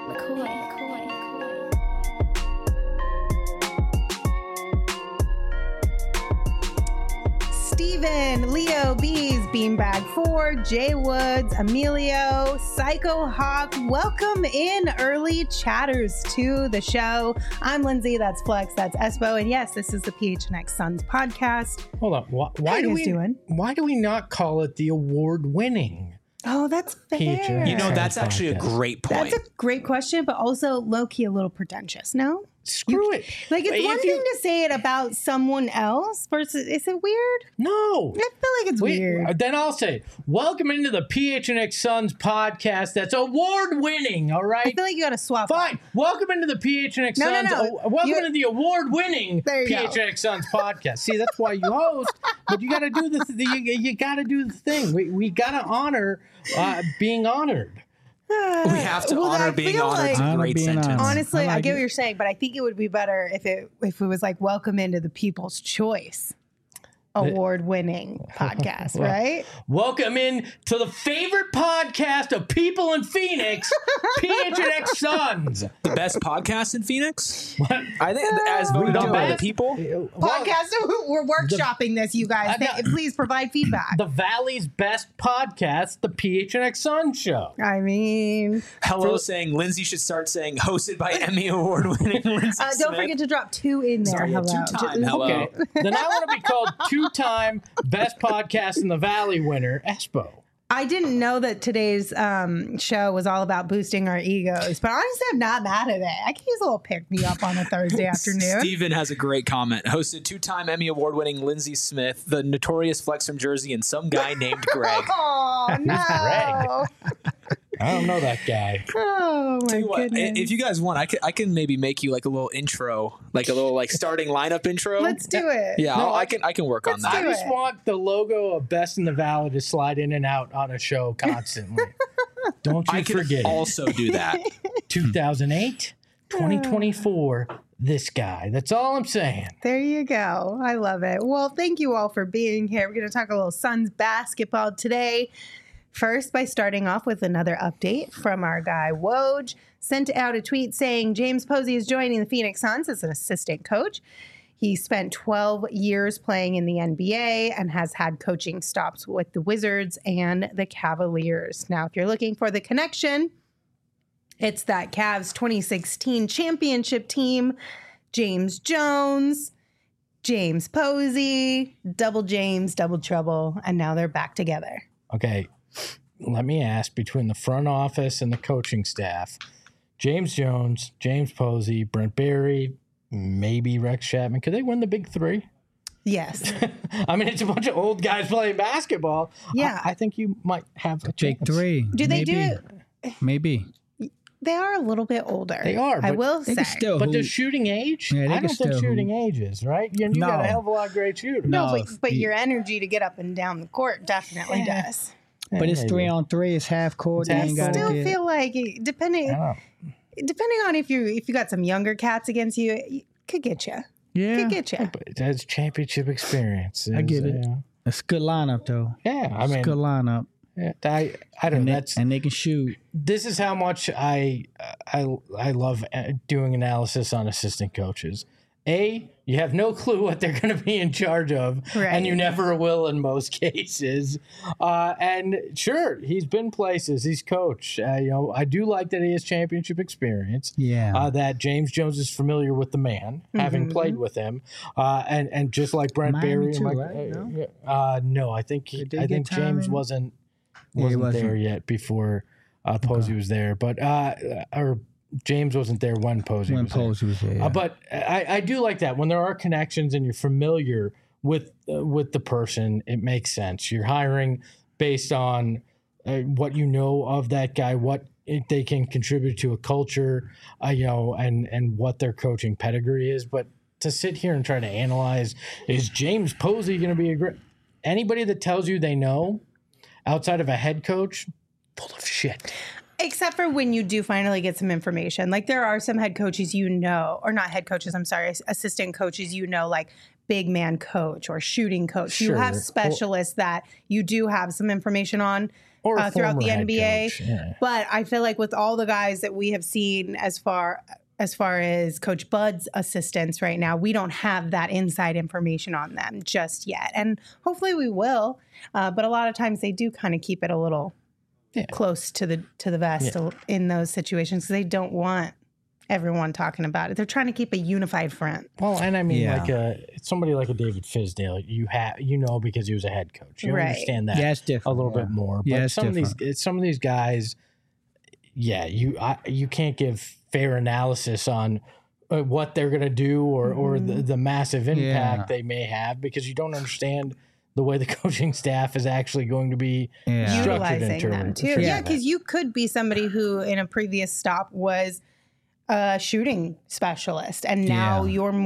Steven, Leo, Bees, Beanbag 4, Jay Woods, Emilio, Psycho Hawk. Welcome in, early chatters, to the show. I'm Lindsay, that's Flex, that's Espo, and yes, this is the PHNX Suns podcast. Hold on. Why do we not call it the award-winning? Oh, that's fair. PHNX You know, that's Suns actually podcast? a great point. That's a great question, but also low-key a little pretentious, no? Screw it. Like, it's If one you- thing to say it about someone else versus, is it weird? No. I feel like it's weird. Then I'll say, welcome into the PHNX Suns podcast that's award-winning, all I right? feel like you got to swap. Fine. Welcome into the PHNX No, no, Suns. no. Welcome You- into the award-winning There you go. PHNX Suns podcast. See, that's why you host, but you got to do you got to do the thing. We got to honor being honored. We have to Well, I honor being feel honored. It's like- a Honor great being sentence. honored. Honestly, I I like get it. what you're saying, but I think it would be better if it was like welcome into the People's Choice award-winning podcast, Well, right? Welcome in to the favorite podcast of people in Phoenix, PHNX Suns. The best podcast in Phoenix? I think, as voted The on by the best- people. Podcast. We're workshopping this, you guys. Please provide feedback. The Valley's best podcast, the PHNX Suns Show. I mean, Hello saying Lindsay should start saying hosted by Emmy Award winning Lindsay don't Smith. forget to drop 2 in there. Sorry, yeah, Hello. 2-time. Hello. Okay, then I want to be called two-time best podcast in the Valley winner, Espo. I didn't know that today's show was all about boosting our egos, but honestly, I'm not mad at it. I can use a little pick me up on a Thursday afternoon. Steven has a great comment. Hosted 2-time Emmy Award winning Lindsay Smith, the notorious Flex from Jersey, and some guy named Greg. Oh, no. Greg. I don't know that guy. Oh, my Tell you what, goodness. if you guys want, I can maybe make you like a little intro, like a little like starting lineup intro. Let's do it. Yeah, No, I can work on let's that. do I just it. want the logo of Best in the Valley to slide in and out on a show constantly. Don't you I can forget. also do that. 2008, 2024, this guy. That's all I'm saying. There you go. I love it. Well, thank you all for being here. We're going to talk a little Suns basketball today. First, by starting off with another update from our guy Woj, sent out a tweet saying James Posey is joining the Phoenix Suns as an assistant coach. He spent 12 years playing in the NBA and has had coaching stops with the Wizards and the Cavaliers. Now, if you're looking for the connection, it's that Cavs 2016 championship team, James Jones, James Posey, double James, double trouble, and now they're back together. Okay, let me ask, between the front office and the coaching staff, James Jones, James Posey, Brent Berry, maybe Rex Chapman, could they win the big three? Yes. I mean, it's a bunch of old guys playing basketball. Yeah. I think you might have a Big chance. 3. Do they do Maybe. it? Maybe. They are a little bit older. They are, I but will They say. can still But hoop. does shooting age? Yeah, they I can don't think still shooting hoop. ages, right? You got a No. hell of a lot of great shooters. No, No, but you- your energy to get up and down the court definitely does. But it's maybe. 3-on-3. It's half court. It's You half ain't I got still to get. feel like depending I on if you got some younger cats against you, it could get you. Yeah. Could get you. But it has championship experience. I get it. It's a good lineup, though. Yeah, I It's a mean, good lineup. yeah, I don't know. And they can shoot. This is how much I love doing analysis on assistant coaches. A, you have no clue what they're going to be in charge of, Right. and you never will in most cases. And sure, he's been places. He's coached. I do like that he has championship experience. Yeah. That James Jones is familiar with the man, having played with him, and just like Brent Miami Berry. too, and right? no, I think Did they I get think time James in? wasn't Yeah, he wasn't. there yet before Posey was there, but or James wasn't there when Posey When was there. Posey was there. Yeah. But I do like that when there are connections and you're familiar with the person. It makes sense. You're hiring based on what you know of that guy, what they can contribute to a culture, and what their coaching pedigree is. But to sit here and try to analyze, is James Posey going to be a great? Anybody that tells you they know outside of a head coach, full of shit. Except for when you do finally get some information. Like there are some head coaches or not head coaches, I'm sorry, assistant coaches, like big man coach or shooting coach. Sure. You have specialists that you do have some information on. Or a throughout former the head NBA. coach, yeah. But I feel like with all the guys that we have seen as far as Coach Bud's assistants right now, we don't have that inside information on them just yet. And hopefully we will. But a lot of times they do kind of keep it a little close to the vest in those situations because they don't want everyone talking about it. They're trying to keep a unified front. Well, and I mean, somebody like a David Fizdale, because he was a head coach. You understand that it's different. a little bit more. But Yeah, some of these guys, you can't give fair analysis on what they're going to do or the massive impact they may have because you don't understand the way the coaching staff is actually going to be utilizing them too. Yeah, because you could be somebody who in a previous stop was a shooting specialist and now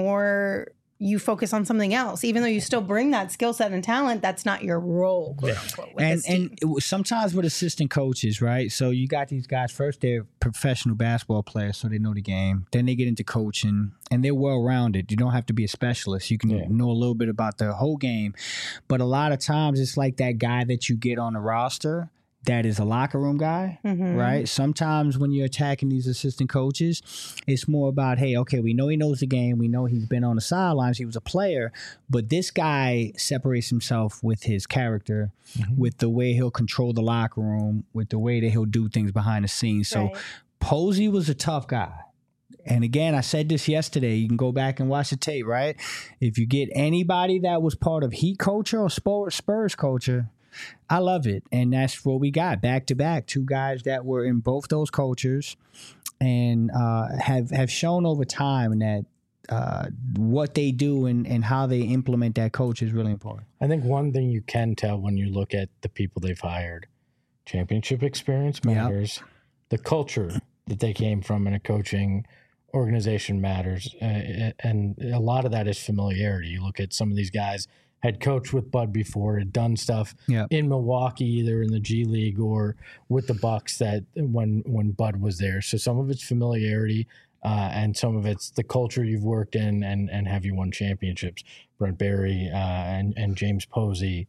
you focus on something else, even though you still bring that skill set and talent. That's not your role, quote unquote. And sometimes with assistant coaches, right? So you got these guys. First, they're professional basketball players, so they know the game. Then they get into coaching, and they're well rounded. You don't have to be a specialist. You can know a little bit about the whole game, but a lot of times it's like that guy that you get on the roster that is a locker room guy, right? Sometimes when you're attacking these assistant coaches, it's more about, hey, okay, we know he knows the game. We know he's been on the sidelines. He was a player. But this guy separates himself with his character, with the way he'll control the locker room, with the way that he'll do things behind the scenes. So Posey was a tough guy. And again, I said this yesterday. You can go back and watch the tape, right? If you get anybody that was part of Heat culture or Spurs culture, I love it. And that's what we got back to back. Two guys that were in both those cultures and have shown over time that what they do and how they implement that culture is really important. I think one thing you can tell when you look at the people they've hired, championship experience matters. The culture that they came from in a coaching organization matters. And a lot of that is familiarity. You look at some of these guys had coached with Bud before, had done stuff in Milwaukee, either in the G League or with the Bucks that when Bud was there. So some of it's familiarity and some of it's the culture you've worked in and have you won championships. Brent Barry and James Posey,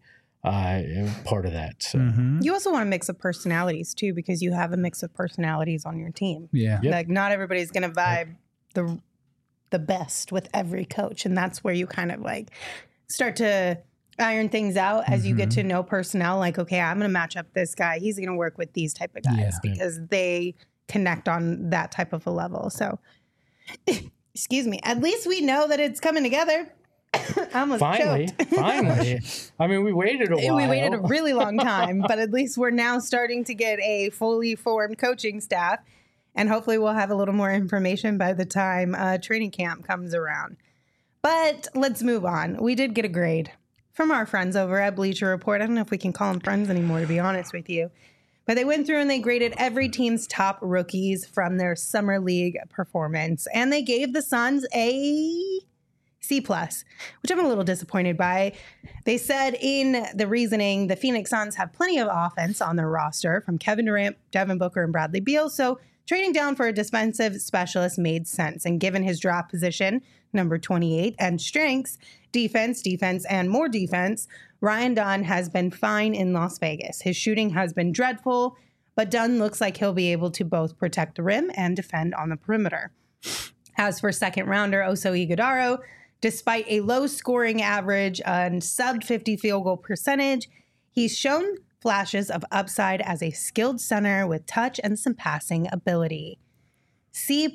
part of that. So you also want a mix of personalities too, because you have a mix of personalities on your team. Like not everybody's going to vibe the best with every coach. And that's where you kind of like start to iron things out as you get to know personnel. Like, okay, I'm going to match up this guy. He's going to work with these type of guys because they connect on that type of a level. So, excuse me. At least we know that it's coming together. I almost choked. Finally. I mean, we waited a while. We waited a really long time, but at least we're now starting to get a fully formed coaching staff. And hopefully we'll have a little more information by the time training camp comes around. But let's move on. We did get a grade from our friends over at Bleacher Report. I don't know if we can call them friends anymore, to be honest with you. But they went through and they graded every team's top rookies from their summer league performance. And they gave the Suns a C+, which I'm a little disappointed by. They said in the reasoning, the Phoenix Suns have plenty of offense on their roster from Kevin Durant, Devin Booker, and Bradley Beal. So trading down for a defensive specialist made sense. And given his draft position, number 28, and strengths, defense, and more defense, Ryan Dunn has been fine in Las Vegas. His shooting has been dreadful, but Dunn looks like he'll be able to both protect the rim and defend on the perimeter. As for second rounder Oso Ighodaro, despite a low scoring average and sub 50 field goal percentage, he's shown flashes of upside as a skilled center with touch and some passing ability. C+.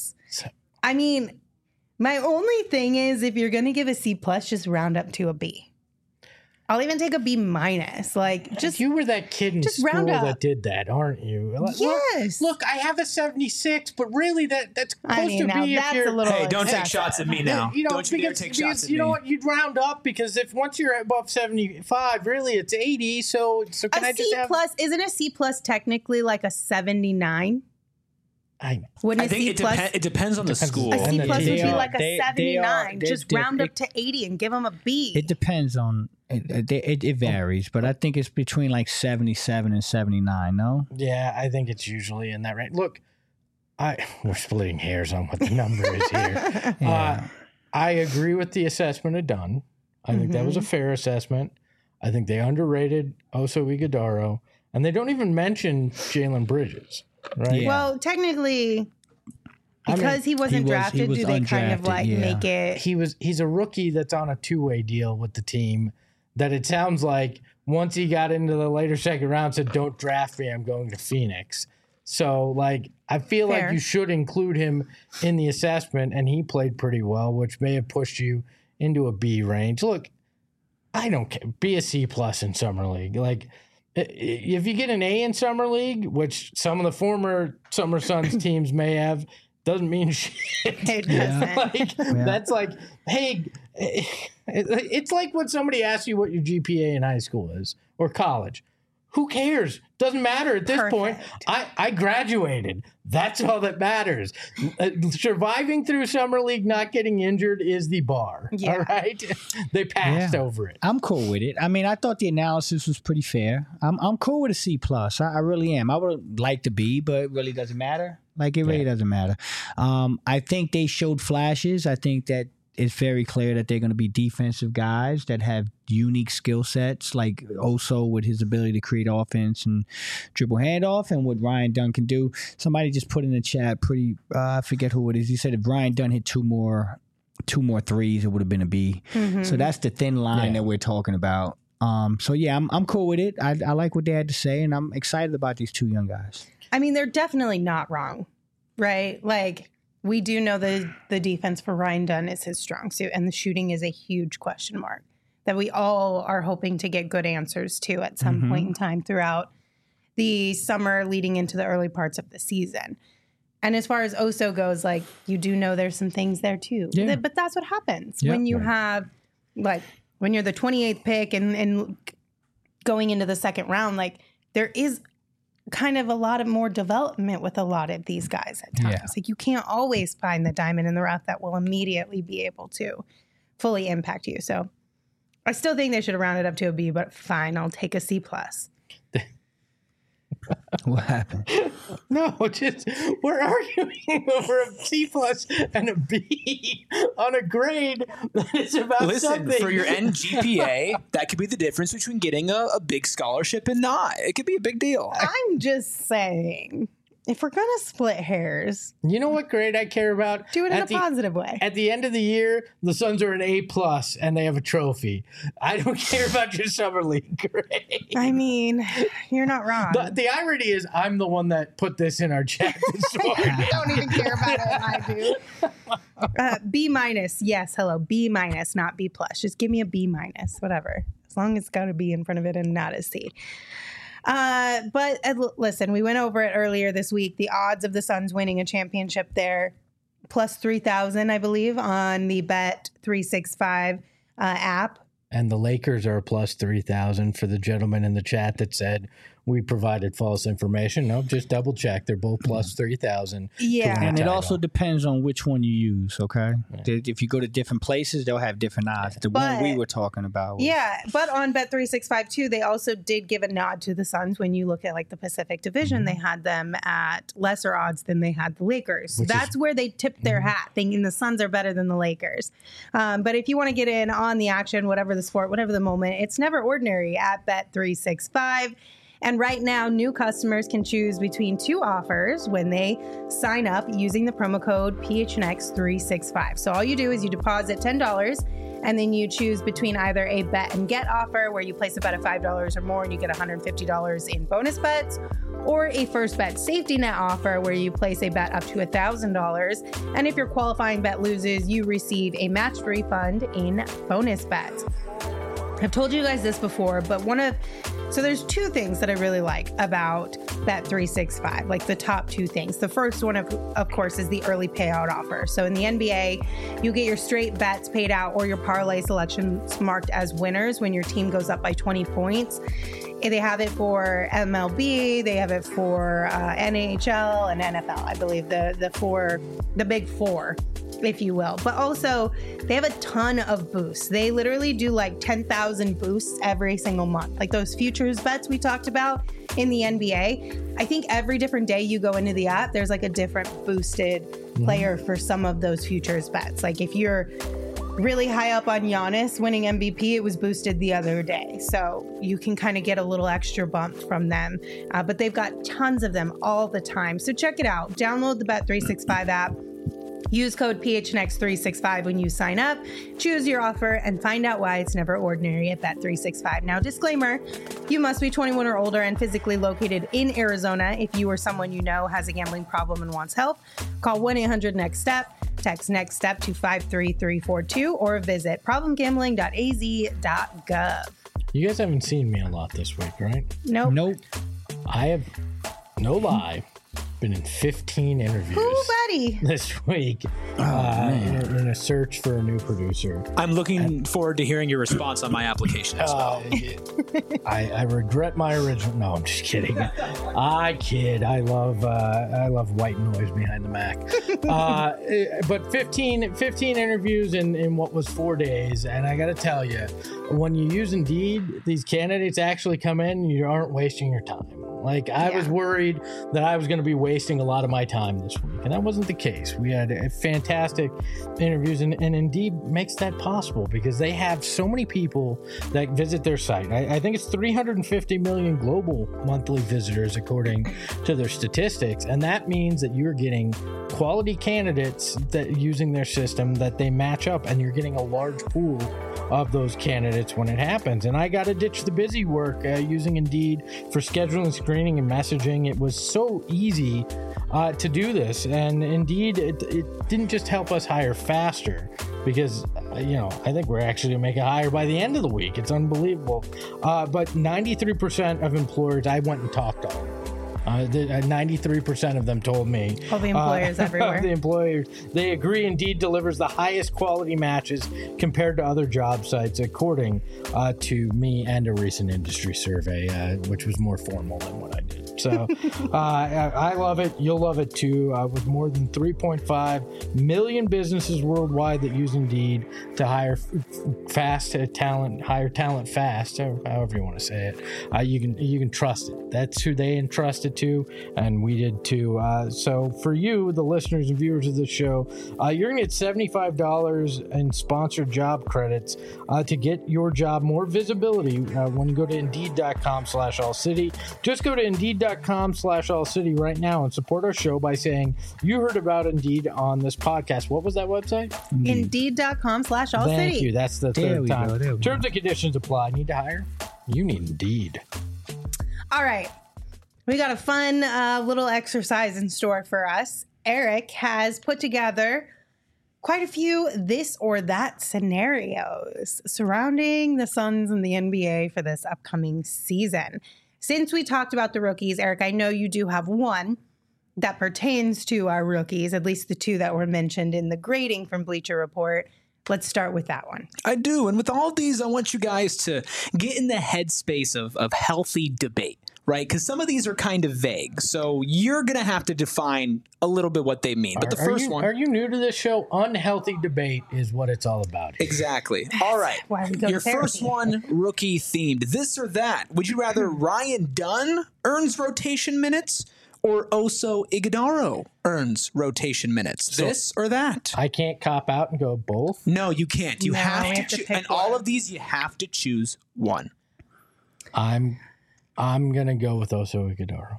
I mean, my only thing is if you're going to give a C+, just round up to a B. I'll even take a B-. Like, just you were that kid in school that did that, aren't you? Yes. Look, I have a 76, but really that's close to B. That's a little hey, don't excessive. take shots at me now. Don't you dare take shots at me. You know what? You'd round up because if once you're above 75, really it's 80. So can I just have isn't a C+ technically like a 79? I think it depends on the school. A C+ would be like a 79. Just round up to 80 and give them a B. It depends on it varies, but I think it's between like 77 and 79. No. Yeah, I think it's usually in that range. Look, we're splitting hairs on what the number is here. I agree with the assessment of Dunn. I think that was a fair assessment. I think they underrated Oso Ighodaro. and they don't even mention Jalen Bridges, right? Yeah. Well, technically, because he wasn't drafted, was do they kind of undrafted, like yeah. make it? He's a rookie that's on a 2-way deal with the team that it sounds like once he got into the later second round said, don't draft me, I'm going to Phoenix. So like I feel Fair. like you should include him in the assessment, and he played pretty well, which may have pushed you into a B range. Look, I don't care. Be a C+ in Summer League. Like if you get an A in Summer League, which some of the former Summer Suns teams may have, doesn't mean shit. It doesn't. Like, that's like, hey, it's like when somebody asks you what your GPA in high school is or college. Who cares? Doesn't matter at this point. I graduated. That's all that matters. Surviving through Summer League, not getting injured is the bar. Yeah. All right? They passed over it. I'm cool with it. I mean, I thought the analysis was pretty fair. I'm cool with a C+. I really am. I would like to be, but it really doesn't matter. Like, it really doesn't matter. I think they showed flashes. I think that it's very clear that they're going to be defensive guys that have unique skill sets, like Oso with his ability to create offense and dribble handoff, and what Ryan Dunn can do. Somebody just put in the chat, I forget who it is. He said if Ryan Dunn hit two more threes, it would have been a B. Mm-hmm. So that's the thin line that we're talking about. So yeah, I'm cool with it. I like what they had to say, and I'm excited about these two young guys. I mean, they're definitely not wrong, right? Like, we do know the defense for Ryan Dunn is his strong suit, and the shooting is a huge question mark that we all are hoping to get good answers to at some point in time throughout the summer leading into the early parts of the season. And as far as Oso goes, like, you do know there's some things there too. Yeah. But that's what happens Yep. when you have, like, when you're the 28th pick and going into the second round, like, there is kind of a lot of more development with a lot of these guys at times. Yeah. Like, you can't always find the diamond in the rough that will immediately be able to fully impact you. So I still think they should have rounded up to a B, but fine, I'll take a C+. What happened? No, just we're arguing over a C+ and a B on a grade that is about Listen, something. for your NGPA, that could be the difference between getting a big scholarship and not. It could be a big deal. I'm just saying, if we're going to split hairs, You know what grade I care about? do it in a At the- positive way. At the end of the year, the Suns are an A+ and they have a trophy. I don't care about your Summer League grade. I mean, you're not wrong. The irony is I'm the one that put this in our chat this morning. You don't even care about it, and I do. B-, yes, hello, B-, not B+. Just give me a B-, whatever. As long as it's got a B in front of it and not a C. But listen, we went over it earlier this week. The odds of the Suns winning a championship there, plus 3,000, I believe, on the Bet365 app. And the Lakers are a plus 3,000 for the gentleman in the chat that said we provided false information. No, just double check. They're both plus 3,000. Yeah. And it title. also depends on which one you use, okay? If you go to different places, they'll have different odds. The one we were talking about was, Yeah, but on Bet365 too, they also did give a nod to the Suns. When you look at like the Pacific Division, they had them at lesser odds than they had the Lakers. That's where they tipped their hat, thinking the Suns are better than the Lakers. But if you want to get in on the action, whatever the sport, whatever the moment, it's never ordinary at Bet365. And right now, new customers can choose between two offers when they sign up using the promo code PHNX365. So all you do is you deposit $10 and then you choose between either a bet and get offer where you place a bet of $5 or more and you get $150 in bonus bets, or a first bet safety net offer where you place a bet up to $1,000. And if your qualifying bet loses, you receive a matched refund in bonus bets. I've told you guys this before, but so there's two things that I really like about Bet365, like the top two things. The first one, of course, is the early payout offer. So in the NBA, you get your straight bets paid out or your parlay selections marked as winners when your team goes up by 20 points. They have it for MLB, they have it for NHL and NFL, I believe, the big four, if you will. But also, they have a ton of boosts. They literally do like 10,000 boosts every single month. Like those futures bets we talked about in the NBA. I think every different day you go into the app, there's like a different boosted player for some of those futures bets. Like if you're really high up on Giannis winning MVP. It was boosted the other day. So you can kind of get a little extra bump from them. But they've got tons of them all the time. So check it out. Download the Bet365 app. Use code PHNX365 when you sign up. Choose your offer and find out why it's never ordinary at Bet365. Now, disclaimer, you must be 21 or older and physically located in Arizona. If you or someone you know has a gambling problem and wants help, call 1-800-NEXT-STEP. Text Next Step to 53342 or visit problemgambling.az.gov. You guys haven't seen me a lot this week, right? Nope. I have, no lie, been in 15 interviews Ooh, buddy. this week in a search for a new producer. I'm looking forward to hearing your response on my application as well. I regret my original. No, I'm just kidding. I kid. I love white noise behind the Mac. But 15 interviews in what was 4 days, and I got to tell you, when you use Indeed, these candidates actually come in, you aren't wasting your time. Like, I was worried that I was going to be wasting a lot of my time this week, and that wasn't the case. We had fantastic interviews, and Indeed makes that possible because they have so many people that visit their site. I think it's 350 million global monthly visitors, according to their statistics, and that means that you're getting quality candidates that using their system that they match up, and you're getting a large pool of those candidates when it happens. And I got to ditch the busy work using Indeed for scheduling, screening, and messaging. It was so easy to do this, and Indeed, it didn't just help us hire faster because I think we're actually gonna make it higher by the end of the week. It's unbelievable. But 93% of employers I went and talked to, 93% of them told me. All the employers everywhere. The employers, they agree Indeed delivers the highest quality matches compared to other job sites, according to me and a recent industry survey, which was more formal than what I did. So I love it. You'll love it too. With more than 3.5 million businesses worldwide that use Indeed to hire hire talent fast, however you want to say it. You can trust it. That's who they entrusted to, and we did too. So for you, the listeners and viewers of the show, you're gonna get $75 in sponsored job credits to get your job more visibility when you go to Indeed.com/AllCity. Just go to Indeed.com/AllCity right now and support our show by saying you heard about Indeed on this podcast. What was that website? Indeed.com/AllCity. Thank you. That's the third time. There we go. Terms and conditions apply. Need to hire? You need Indeed. All right. We got a fun little exercise in store for us. Eric has put together quite a few this or that scenarios surrounding the Suns and the NBA for this upcoming season. Since we talked about the rookies, Eric, I know you do have one that pertains to our rookies, at least the two that were mentioned in the grading from Bleacher Report. Let's start with that one. I do. And with all of these, I want you guys to get in the headspace of healthy debate, right? Because some of these are kind of vague. So you're going to have to define a little bit what they mean. But the first one. Are you new to this show? Unhealthy debate is what it's all about here. Exactly. All right. Why we go Your to therapy. first one, rookie themed. This or that. Would you rather Ryan Dunn earns rotation minutes or Oso Ighodaro earns rotation minutes? This or that? I can't cop out and go both. No, you can't. You No, have we to have to choose. pick And all one. of these, you have to choose one. I'm gonna go with Oso Ighodaro.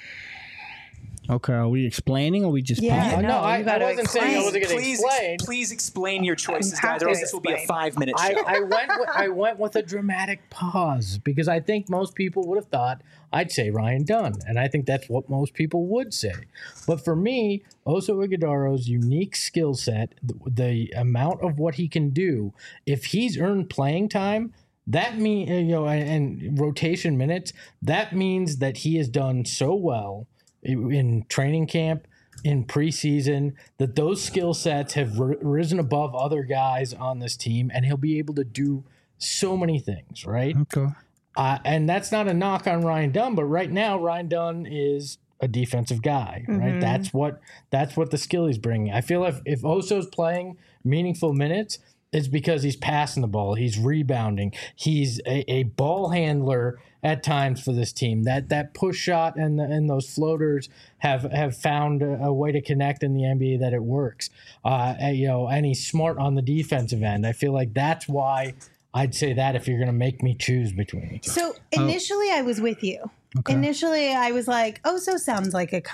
Okay, are we explaining or we just Yeah. playing? No, I you gotta wasn't saying I wasn't going to explain. Please explain your choices, You have guys, or to else this will be a explain. 5-minute show. I went with a dramatic pause because I think most people would have thought I'd say Ryan Dunn, and I think that's what most people would say. But for me, Oso Ighodaro's unique skill set, the amount of what he can do, if he's earned playing time, that means and rotation minutes, that means that he has done so well in training camp, in preseason, that those skill sets have risen above other guys on this team, and he'll be able to do so many things, right? Okay. And that's not a knock on Ryan Dunn, but right now Ryan Dunn is a defensive guy, right? That's what the skill he's bringing. I feel if Oso's playing meaningful minutes, is because he's passing the ball. He's rebounding. He's a ball handler at times for this team. That push shot and those floaters have found a way to connect in the NBA that it works. And he's smart on the defensive end. I feel like that's why I'd say that if you're going to make me choose between each. So initially, I was with you. Okay. Initially, I was like, Oso sounds like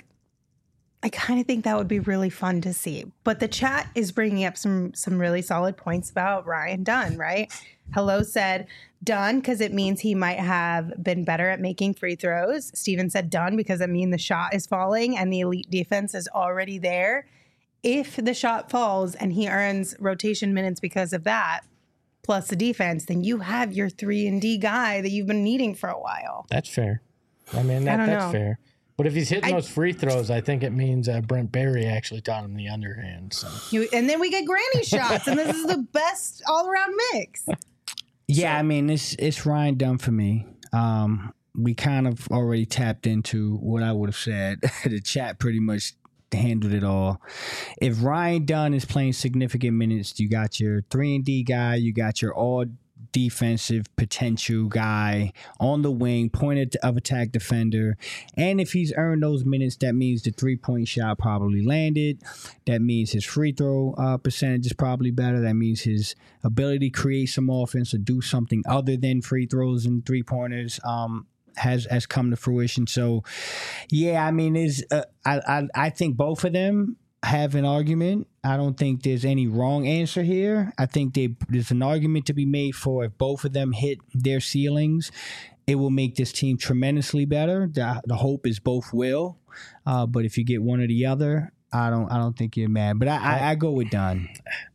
I kind of think that would be really fun to see. But the chat is bringing up some really solid points about Ryan Dunn, right? Hello said Dunn because it means he might have been better at making free throws. Steven said Dunn because it means the shot is falling and the elite defense is already there. If the shot falls and he earns rotation minutes because of that, plus the defense, then you have your 3-and-D guy that you've been needing for a while. That's fair. I mean, that's fair. But if he's hitting those free throws, I think it means Brent Barry actually taught him the underhand. So. And then we get granny shots, and this is the best all-around mix. Yeah, I mean, it's Ryan Dunn for me. We kind of already tapped into what I would have said. The chat pretty much handled it all. If Ryan Dunn is playing significant minutes, you got your 3-and-D guy, you got your all defensive potential guy on the wing, point of attack defender. And if he's earned those minutes, that means the 3-point shot probably landed. That means his free throw percentage is probably better. That means his ability to create some offense or do something other than free throws and 3-pointers has come to fruition. So, yeah, I mean, I think both of them have an argument. I don't think there's any wrong answer here. I think there's an argument to be made for if both of them hit their ceilings, it will make this team tremendously better. The hope is both will. But if you get one or the other, I don't think you're mad. But I go with Dunn.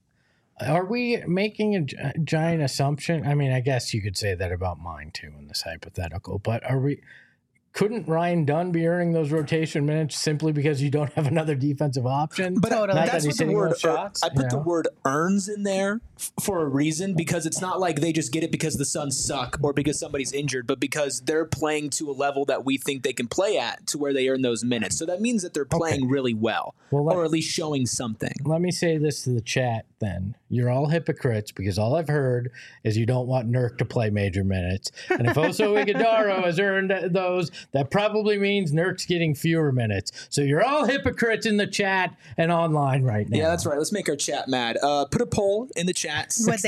Are we making a giant assumption? I mean, I guess you could say that about mine too in this hypothetical. But couldn't Ryan Dunn be earning those rotation minutes simply because you don't have another defensive option? But totally. That's what the word shots, I put the word earns in there for a reason, because it's not like they just get it because the Suns suck or because somebody's injured, but because they're playing to a level that we think they can play at to where they earn those minutes. So that means that they're playing really well or at least showing something. Let me say this to the chat then. You're all hypocrites because all I've heard is you don't want Nurk to play major minutes. And if Oso Ighodaro has earned those, that probably means Nurk's getting fewer minutes. So you're all hypocrites in the chat and online right now. Yeah, that's right. Let's make our chat mad. Put a poll in the chat.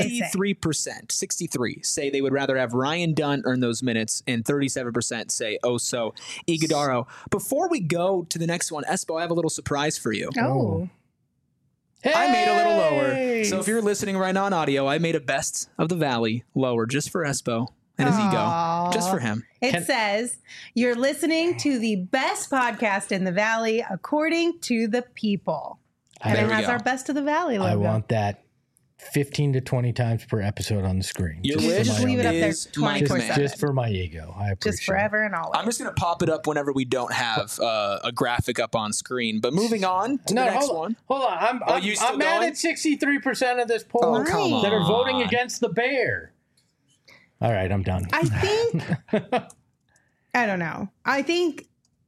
63%, 63 say they would rather have Ryan Dunn earn those minutes, and 37% say Oso Ighodaro. Before we go to the next one, Espo, I have a little surprise for you. Oh. Hey! I made a little lower. So if you're listening right now on audio, I made a Best of the Valley lower just for Espo and his ego. Just for him. It says, you're listening to the best podcast in the Valley according to the people. And it has our Best of the Valley logo. I want that 15 to 20 times per episode on the screen. Your wish just leave it up there 24/7. Just for my ego. I appreciate just forever and always. I'm just going to pop it up whenever we don't have a graphic up on screen. But moving on to the next one. Hold on. I'm mad at 63% of this poll that are voting against the Bear. All right, I'm done. I think, I don't know. I think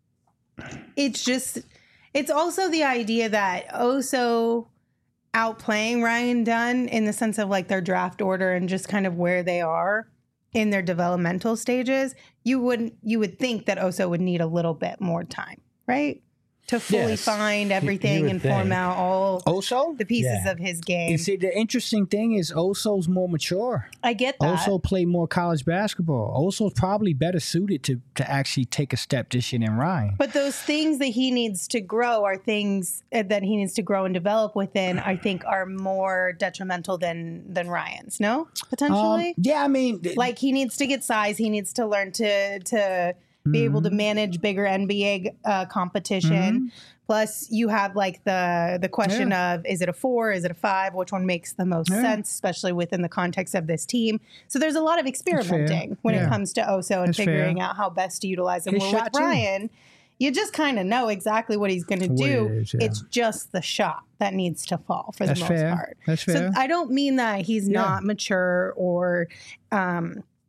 it's also the idea that Oso outplaying Ryan Dunn in the sense of like their draft order and just kind of where they are in their developmental stages. You would think that Oso would need a little bit more time, right? To fully find everything and form out all Oso? the pieces of his game. You see, the interesting thing is Oso's more mature. I get that. Oso played more college basketball. Oso's probably better suited to actually take a step this year than Ryan. But those things that he needs to grow are things that he needs to grow and develop within, I think, are more detrimental than Ryan's, no? Potentially? Yeah, I mean... Like, he needs to get size. He needs to learn to be able to manage bigger NBA competition. Plus, you have like the question of, is it a 4? Is it a 5? Which one makes the most sense, especially within the context of this team? So there's a lot of experimenting when it comes to Oso and figuring out how best to utilize him. Well, with Ryan, you just kind of know exactly what he's going to do. It's just the shot that needs to fall for the most part. That's fair. So I don't mean that he's not mature or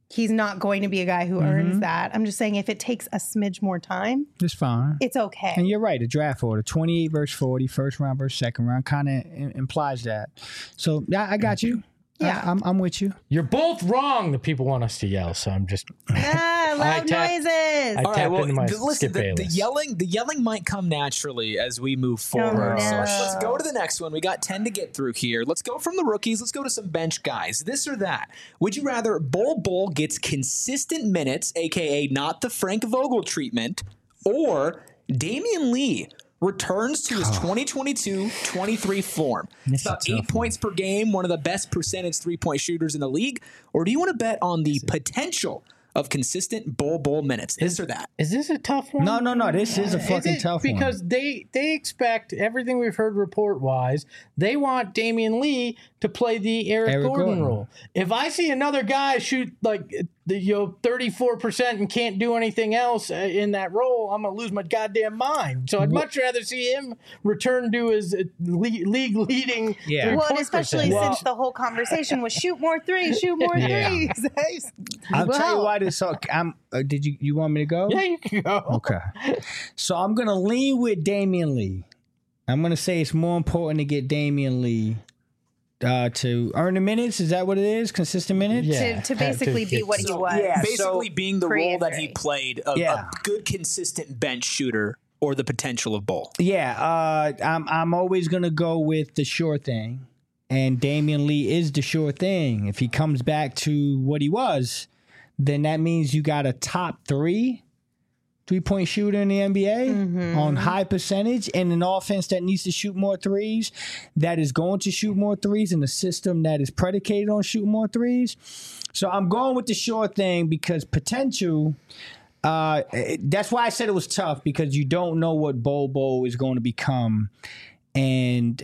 he's not going to be a guy who earns that. I'm just saying if it takes a smidge more time, It's fine. it's okay. And you're right. The draft order, 28 versus 40, first round versus second round, kind of implies that. So yeah, I got you. Yeah. I'm with you. You're both wrong. The people want us to yell, so I'm just. Loud noises. I All right, tap well, into my listen, Skip the Bayless. yelling might come naturally as we move forward. no. So let's go to the next one. We got 10 to get through here. Let's go from the rookies. Let's go to some bench guys. This or that. Would you rather Bol gets consistent minutes, a.k.a. not the Frank Vogel treatment, or Damian Lee returns to his 2022-23 form? It's about 8 points per game, one of the best percentage three-point shooters in the league. Or do you want to bet on the potential of consistent Bol minutes? This or that? Is this a tough one? No. This is a fucking tough one. Because they expect everything we've heard report wise. They want Damian Lee to play the Eric Gordon role. If I see another guy shoot like 34% and can't do anything else in that role, I'm gonna lose my goddamn mind. So I'd much rather see him return to his league leading. Yeah. Well, and especially since the whole conversation was shoot more threes. I'll tell you why this. Did you want me to go? Yeah, you can go. Okay. So I'm gonna lean with Damian Lee. I'm gonna say it's more important to get Damian Lee to earn the minutes. Is that what it is? Consistent minutes? Yeah. To basically be what he was. yeah. Basically being the role that he pre-injury. played, a good consistent bench shooter, or the potential of Bol. Yeah. I'm always gonna go with the sure thing, and Damian Lee is the sure thing. If he comes back to what he was, then that means you got a top 3-point shooter in the NBA on high percentage, and an offense that needs to shoot more threes, that is going to shoot more threes, in a system that is predicated on shooting more threes. So I'm going with the sure thing because potential. That's why I said it was tough, because you don't know what Bol is going to become, and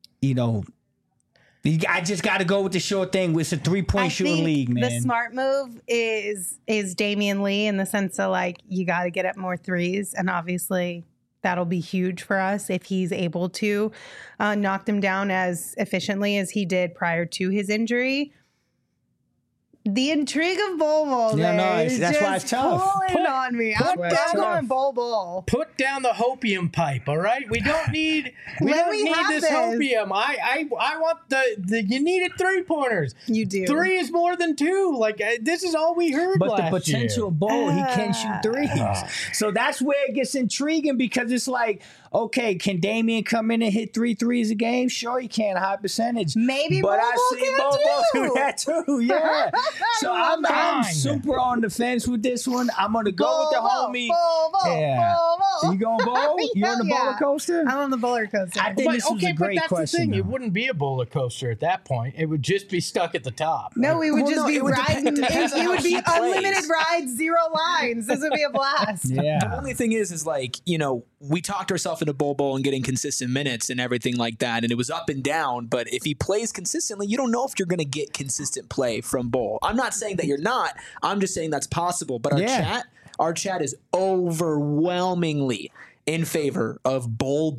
I just got to go with the sure thing. It's a 3-point shooting league, man. The smart move is Damian Lee, in the sense of you got to get up more threes, and obviously that'll be huge for us if he's able to knock them down as efficiently as he did prior to his injury. The intrigue of Bol that's why it's tough. pulling on me. I'm going Bol. Put down the hopium pipe, all right? We don't need this hopium. I want the you needed 3-pointers. You do. 3 is more than 2. This is all we heard But last the potential of Bol, he can shoot threes. So that's where it gets intriguing, because it's okay, can Damian come in and hit 3 threes a game? Sure, he can, high percentage. Maybe but Bol I see can Bol too. do that too. Yeah. So I'm super on the fence with this one. I'm gonna go with the homie. You going Bol? You on the roller coaster? I'm on the roller coaster. I think this was a great but that's question. the thing. though. It wouldn't be a roller coaster at that point. It would just be stuck at the top. No, we would just be it would riding. depend on It would how be he plays. unlimited rides, 0 lines. This would be a blast. The Yeah. only thing is we talked ourselves into Bol and getting consistent minutes and everything like that, and it was up and down. But if he plays consistently, you don't know if you're going to get consistent play from Bol. I'm not saying that you're not. I'm just saying that's possible. But our chat is overwhelmingly in favor of Bol.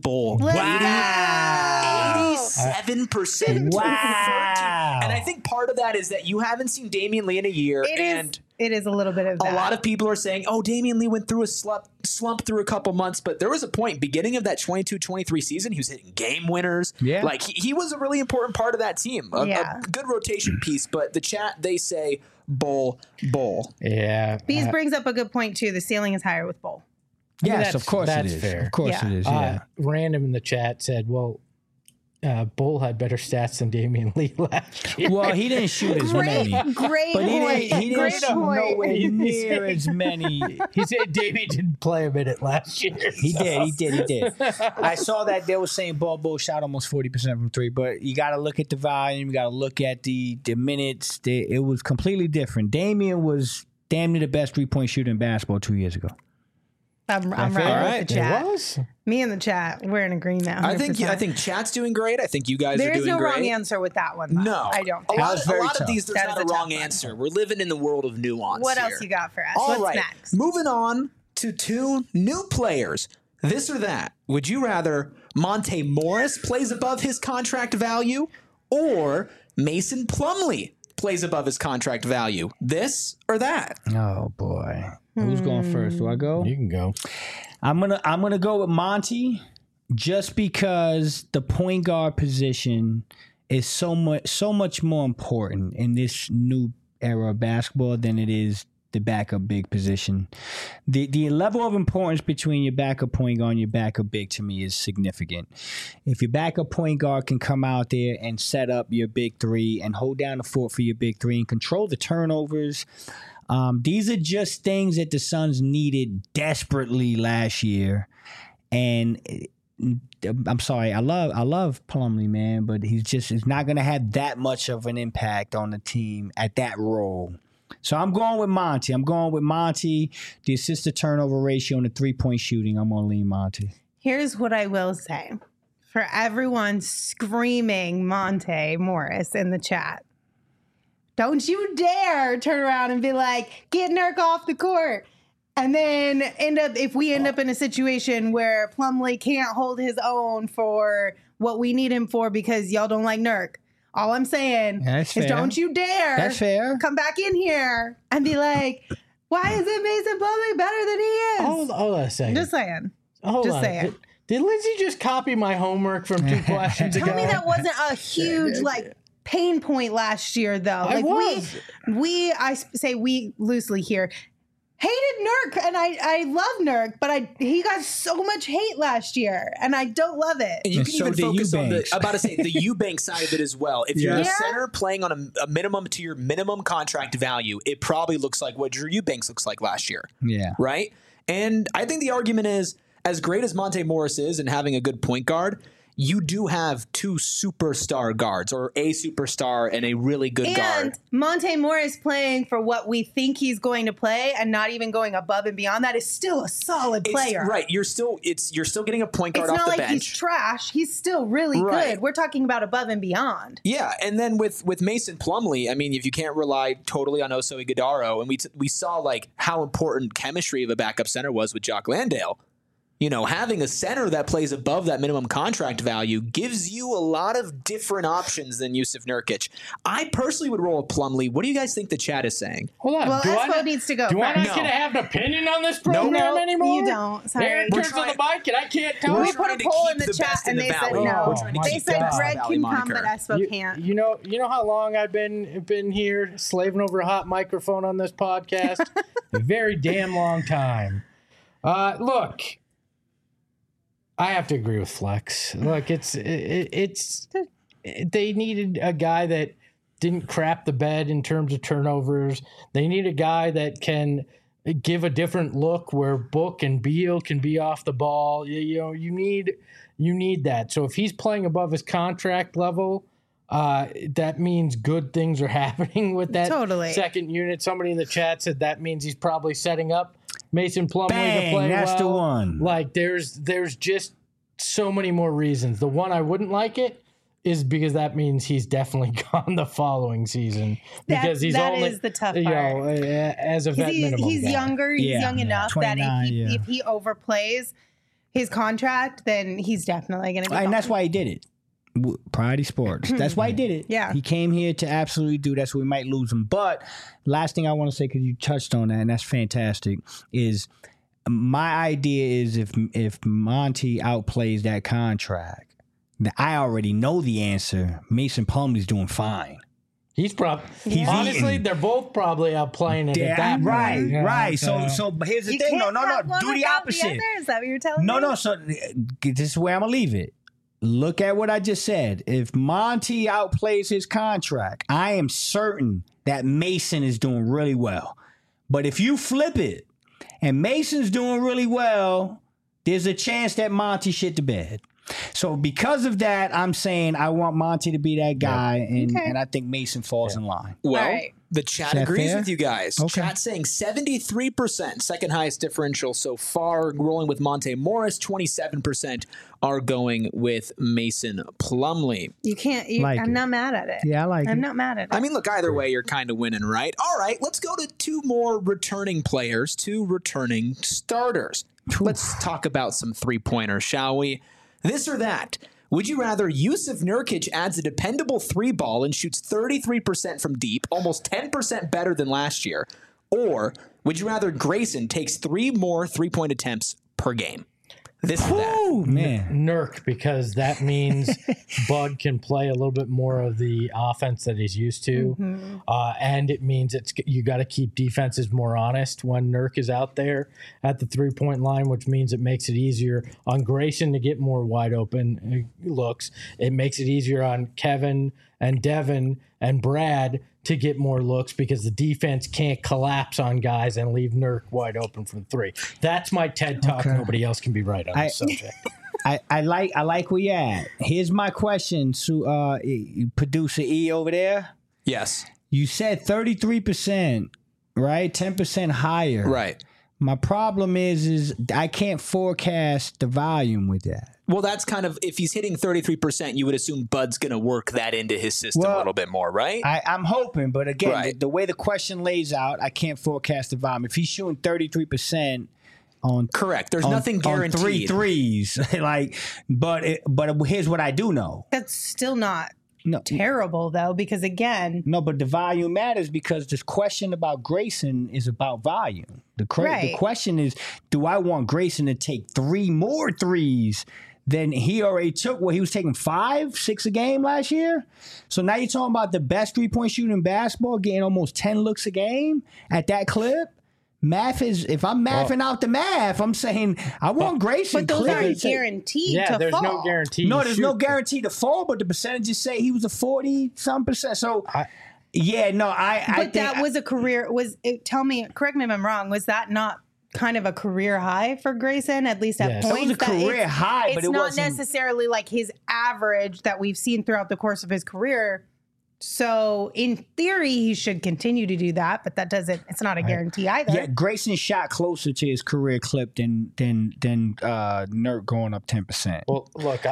Wow. 87%. Wow. And I think part of that is that you haven't seen Damian Lee in a year, and It is a little bit of that. a lot of people are saying, oh, Damian Lee went through a slump through a couple months, but there was a point, beginning of that 22-23 season, he was hitting game winners. Yeah. He was a really important part of that team, a good rotation piece. But the chat, they say Bol. Yeah. Bees brings up a good point too. The ceiling is higher with Bol. Yes, of course that's it is. fair. Of course Yeah. it is. Yeah. Random in the chat said, well, Bol had better stats than Damian Lee last year. Well, he didn't shoot as many. Great But point. he didn't Great shoot point. nowhere near as many. He said Damian didn't play a minute last year. He did. I saw that they were saying Bol shot almost 40% from 3, but you got to look at the volume. You got to look at the minutes. It was completely different. Damian was damn near the best 3-point shooter in basketball 2 years ago. I'm fair? right with the chat. It was? Me and the chat, we're in agreement. 100%. I think chat's doing great. I think you guys there are is doing no great. wrong answer with that one. Though. No, I don't. A Think. lot, was very a lot of tough. these, there's That not is a a wrong tough one. answer. We're living in the world of nuance. What here. else you got for us? All What's right, next? moving on to 2 new players. This or that. Would you rather Monte Morris plays above his contract value, or Mason Plumlee plays above his contract value? This or that? Oh boy, who's going first? Do I go? You can go. I'm gonna go with Monty, just because the point guard position is so much more important in this new era of basketball than it is the backup big position. The level of importance between your backup point guard and your backup big, to me, is significant. If your backup point guard can come out there and set up your big three and hold down the fort for your big three and control the turnovers, these are just things that the Suns needed desperately last year. And I'm sorry, I love Plumlee, man, but he's not going to have that much of an impact on the team at that role. So I'm going with Monty. The assist-to-turnover ratio and the three-point shooting, I'm going to lean Monty. Here's what I will say. For everyone screaming Monte Morris in the chat, don't you dare turn around and be like, get Nurk off the court. And then if we end up in a situation where Plumlee can't hold his own for what we need him for because y'all don't like Nurk. All I'm saying is don't you dare come back in here and be like, why is it Mason Plumlee better than he is? Hold on a second. Just saying. Hold on. Did Lindsay just copy my homework from 2 questions ago? Tell me that wasn't a huge pain point last year, though. I say we loosely here. Hated Nurk, and I love Nurk, but he got so much hate last year, and I don't love it. And you can even focus on the Eubanks side of it as well. If you're a center playing on a minimum to your minimum contract value, it probably looks like what Drew Eubanks looks like last year. Yeah. Right? And I think the argument is, as great as Monte Morris is and having a good point guard, you do have 2 superstar guards, or a superstar and a really good guard. And Monte Morris playing for what we think he's going to play and not even going above and beyond that is still a solid player. Right. You're still getting a point guard off the bench. It's not like he's trash. He's still really good. We're talking about above and beyond. Yeah. And then with Mason Plumlee, I mean, if you can't rely totally on Oso Ighodaro, and we saw how important chemistry of a backup center was with Jock Landale. You know, having a center that plays above that minimum contract value gives you a lot of different options than Jusuf Nurkic. I personally would roll with Plumlee. What do you guys think the chat is saying? Hold on. Well, Espo needs to go. Do I not get to have an opinion on this program anymore? You don't. Sorry. Aaron turns on the mic and I can't tell. We put a poll in the chat and they said no. They said Greg can come, but Espo can't. You know how long I've been here slaving over a hot microphone on this podcast? A very damn long time. Look. I have to agree with Flex. Look, it's they needed a guy that didn't crap the bed in terms of turnovers. They need a guy that can give a different look where Book and Beal can be off the ball. You need that. So if he's playing above his contract level, that means good things are happening with that second unit. Somebody in the chat said that means he's probably setting up Mason Plumlee to play that's well. the one. There's just so many more reasons. The one I wouldn't like it is because that means he's definitely gone the following season. Because that is the tough part. As a vet minimum. He's younger. He's young enough that if he overplays his contract, then he's definitely going to be gone. And that's why he did it. Priority Sports. That's why he did it. Yeah. He came here to absolutely do that, so we might lose him. But last thing I want to say, because you touched on that, and that's fantastic, is my idea is if Monty outplays that contract, I already know the answer. Mason Plumlee's doing fine. Honestly, they're both probably outplaying it at that point. Right. So here's the thing. No. Do the opposite. Is that what you're telling me? No. So this is where I'm going to leave it. Look at what I just said. If Monty outplays his contract, I am certain that Mason is doing really well. But if you flip it and Mason's doing really well, there's a chance that Monty shit the bed. So because of that, I'm saying I want Monty to be that guy, and I think Mason falls in line. Well, the chat agrees with you guys. Okay. Chat saying 73%, second highest differential so far, rolling with Monte Morris. 27% are going with Mason Plumlee. You can't. I'm not mad at it. Yeah, I like it. I'm not mad at it. I mean, look, either way, you're kind of winning, right? All right, let's go to 2 more returning players, 2 returning starters. Let's talk about some 3-pointers, shall we? This or that. Would you rather Yusuf Nurkic adds a dependable 3-ball and shoots 33% from deep, almost 10% better than last year? Or would you rather Grayson takes 3 more 3-point attempts per game? This is that. Man. Nurk, because that means Bud can play a little bit more of the offense that he's used to. And it means you got to keep defenses more honest when Nurk is out there at the 3-point line, which means it makes it easier on Grayson to get more wide open looks. It makes it easier on Kevin and Devin and Brad to get more looks because the defense can't collapse on guys and leave Nurk wide open from 3. That's my TED Talk. Okay. Nobody else can be right on this subject. I like where you at. Here's my question to producer E over there. Yes. You said 33%, right? 10% higher. Right. My problem is I can't forecast the volume with that. Well, that's kind of, if he's hitting 33%, you would assume Bud's going to work that into his system a little bit more, right? I'm hoping, but again, the way the question lays out, I can't forecast the volume. If he's shooting 33% on correct, there's nothing guaranteed. On 3 threes, but here's what I do know. That's still not terrible though, because again, but the volume matters because this question about Grayson is about volume. The question is, do I want Grayson to take 3 more threes than he already took? He was taking 5, 6 a game last year. So now you're talking about the best 3-point shooter in basketball getting almost 10 looks a game at that clip. Math is, if I'm mathing out the math, I'm saying I want Grayson. But those aren't guaranteed to fall. There's no guarantee. No, there's no guarantee to fall, but the percentages say he was a 40-some%. So, I think that was a career, correct me if I'm wrong, was that not kind of a career high for Grayson, at least at points? It was a career high, but it wasn't. It's not necessarily like his average that we've seen throughout the course of his career. So in theory, he should continue to do that, but it's not a guarantee either. Yeah, Grayson shot closer to his career clip than Nurk going up 10%. Well, look,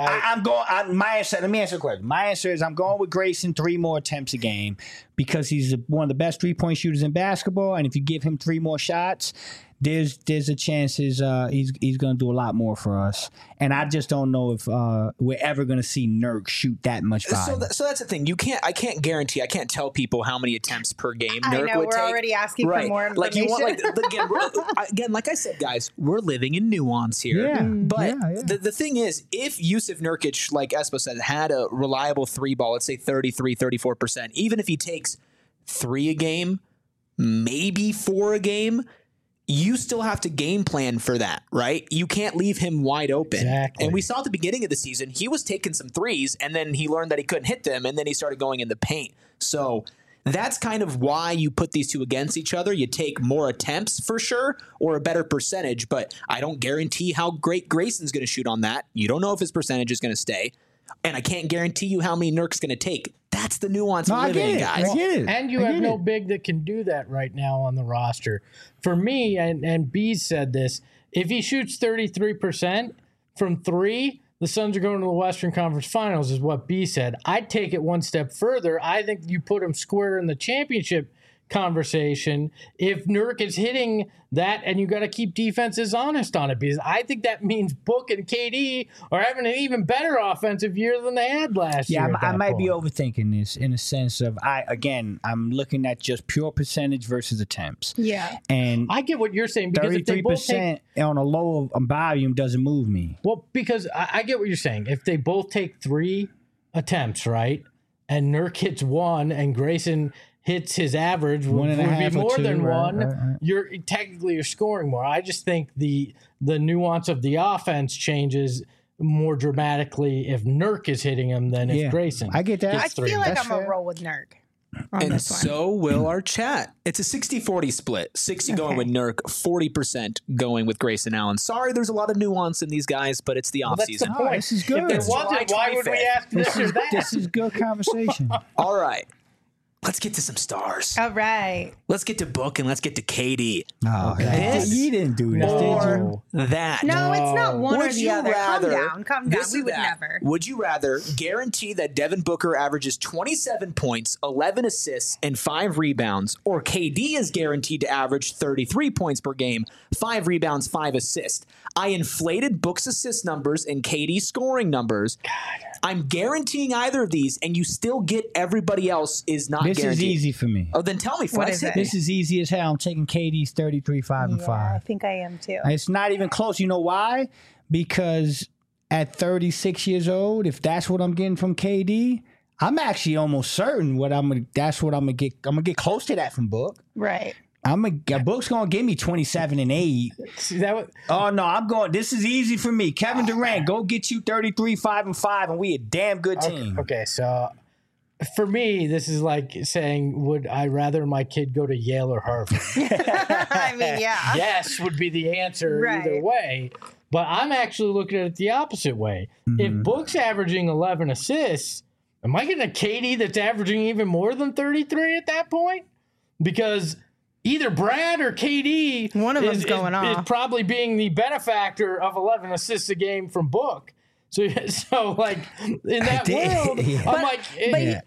my answer, let me answer the question. My answer is I'm going with Grayson 3 more attempts a game because he's one of the best 3-point shooters in basketball, and if you give him 3 more shots, there's a chance he's going to do a lot more for us. And I just don't know if we're ever going to see Nurk shoot that much volume. So that's the thing. I can't guarantee. I can't tell people how many attempts per game Nurk would take. We're already asking for more information. Again, like I said, guys, we're living in nuance here. Yeah, but the thing is, if Yusuf Nurkic, like Espo said, had a reliable 3-ball, let's say 33, 34%, even if he takes 3 a game, maybe 4 a game, you still have to game plan for that, right? You can't leave him wide open. Exactly. And we saw at the beginning of the season, he was taking some threes, and then he learned that he couldn't hit them, and then he started going in the paint. So that's kind of why you put these two against each other. You take more attempts for sure, or a better percentage, but I don't guarantee how great Grayson's going to shoot on that. You don't know if his percentage is going to stay. And I can't guarantee you how many Nurk's going to take. That's the nuance of living, guys. I get it. And you have no big that can do that right now on the roster. For me, and Bees said this, if he shoots 33% from 3, the Suns are going to the Western Conference Finals, is what B said. I'd take it one step further. I think you put him square in the championship conversation if Nurk is hitting that, and you got to keep defenses honest on it, because I think that means Book and KD are having an even better offensive year than they had last year. Yeah, I might be overthinking this in a sense of I'm looking at just pure percentage versus attempts. Yeah, and I get what you're saying, because 33% on a low volume doesn't move me. Well, because I get what you're saying. If they both take 3 attempts, right, and Nurk hits 1 and Grayson hits his average, would be more than 1. Right. You're scoring more. I just think the nuance of the offense changes more dramatically if Nurk is hitting him than if Grayson. I get that. I feel like I'm going to roll with Nurk. And so will our chat. It's a 60-40 split. 60 going with Nurk, 40% going with Grayson Allen. Sorry, there's a lot of nuance in these guys, but it's the offseason. That's the point. This is good. If there wasn't, why would we ask this or that? This is good conversation. All right. let's get to some stars. All right. Let's get to Book and let's get to KD. Oh, This you didn't do this, or did you? that. No, it's not one Would or the you other. rather- Calm down. This We or would that? never. Would you rather guarantee that Devin Booker averages 27 points, 11 assists, and 5 rebounds, or KD is guaranteed to average 33 points per game, 5 rebounds, 5 assists? I inflated Book's assist numbers and KD's scoring numbers. I'm guaranteeing either of these, and you still get everybody else is not This guaranteed. is easy for me. Oh, then tell me, What Flex. is it? This is easy as hell. I'm taking KD's 33, 5, and Yeah, 5. I think I am too. It's not even close. You know why? Because at 36 years old, if that's what I'm getting from KD, I'm actually almost certain that's what I'm gonna get. I'm gonna get close to that from Book. Right. Book's gonna give me 27 and 8. See, that was, Oh no, I'm going. This is easy for me. Kevin Durant, go get you 33, 5, and 5, and we a damn good team. okay, so for me, this is like saying, would I rather my kid go to Yale or Harvard? I mean, yeah. Yes would be the answer Right. either way. But I'm actually looking at it the opposite way. If Book's averaging 11 assists, am I getting a KD that's averaging even more than 33 at that point? Because either Brad or KD One of them's going is off. probably being the benefactor of 11 assists a game from Book. So like in that world, Yeah. I'm like, But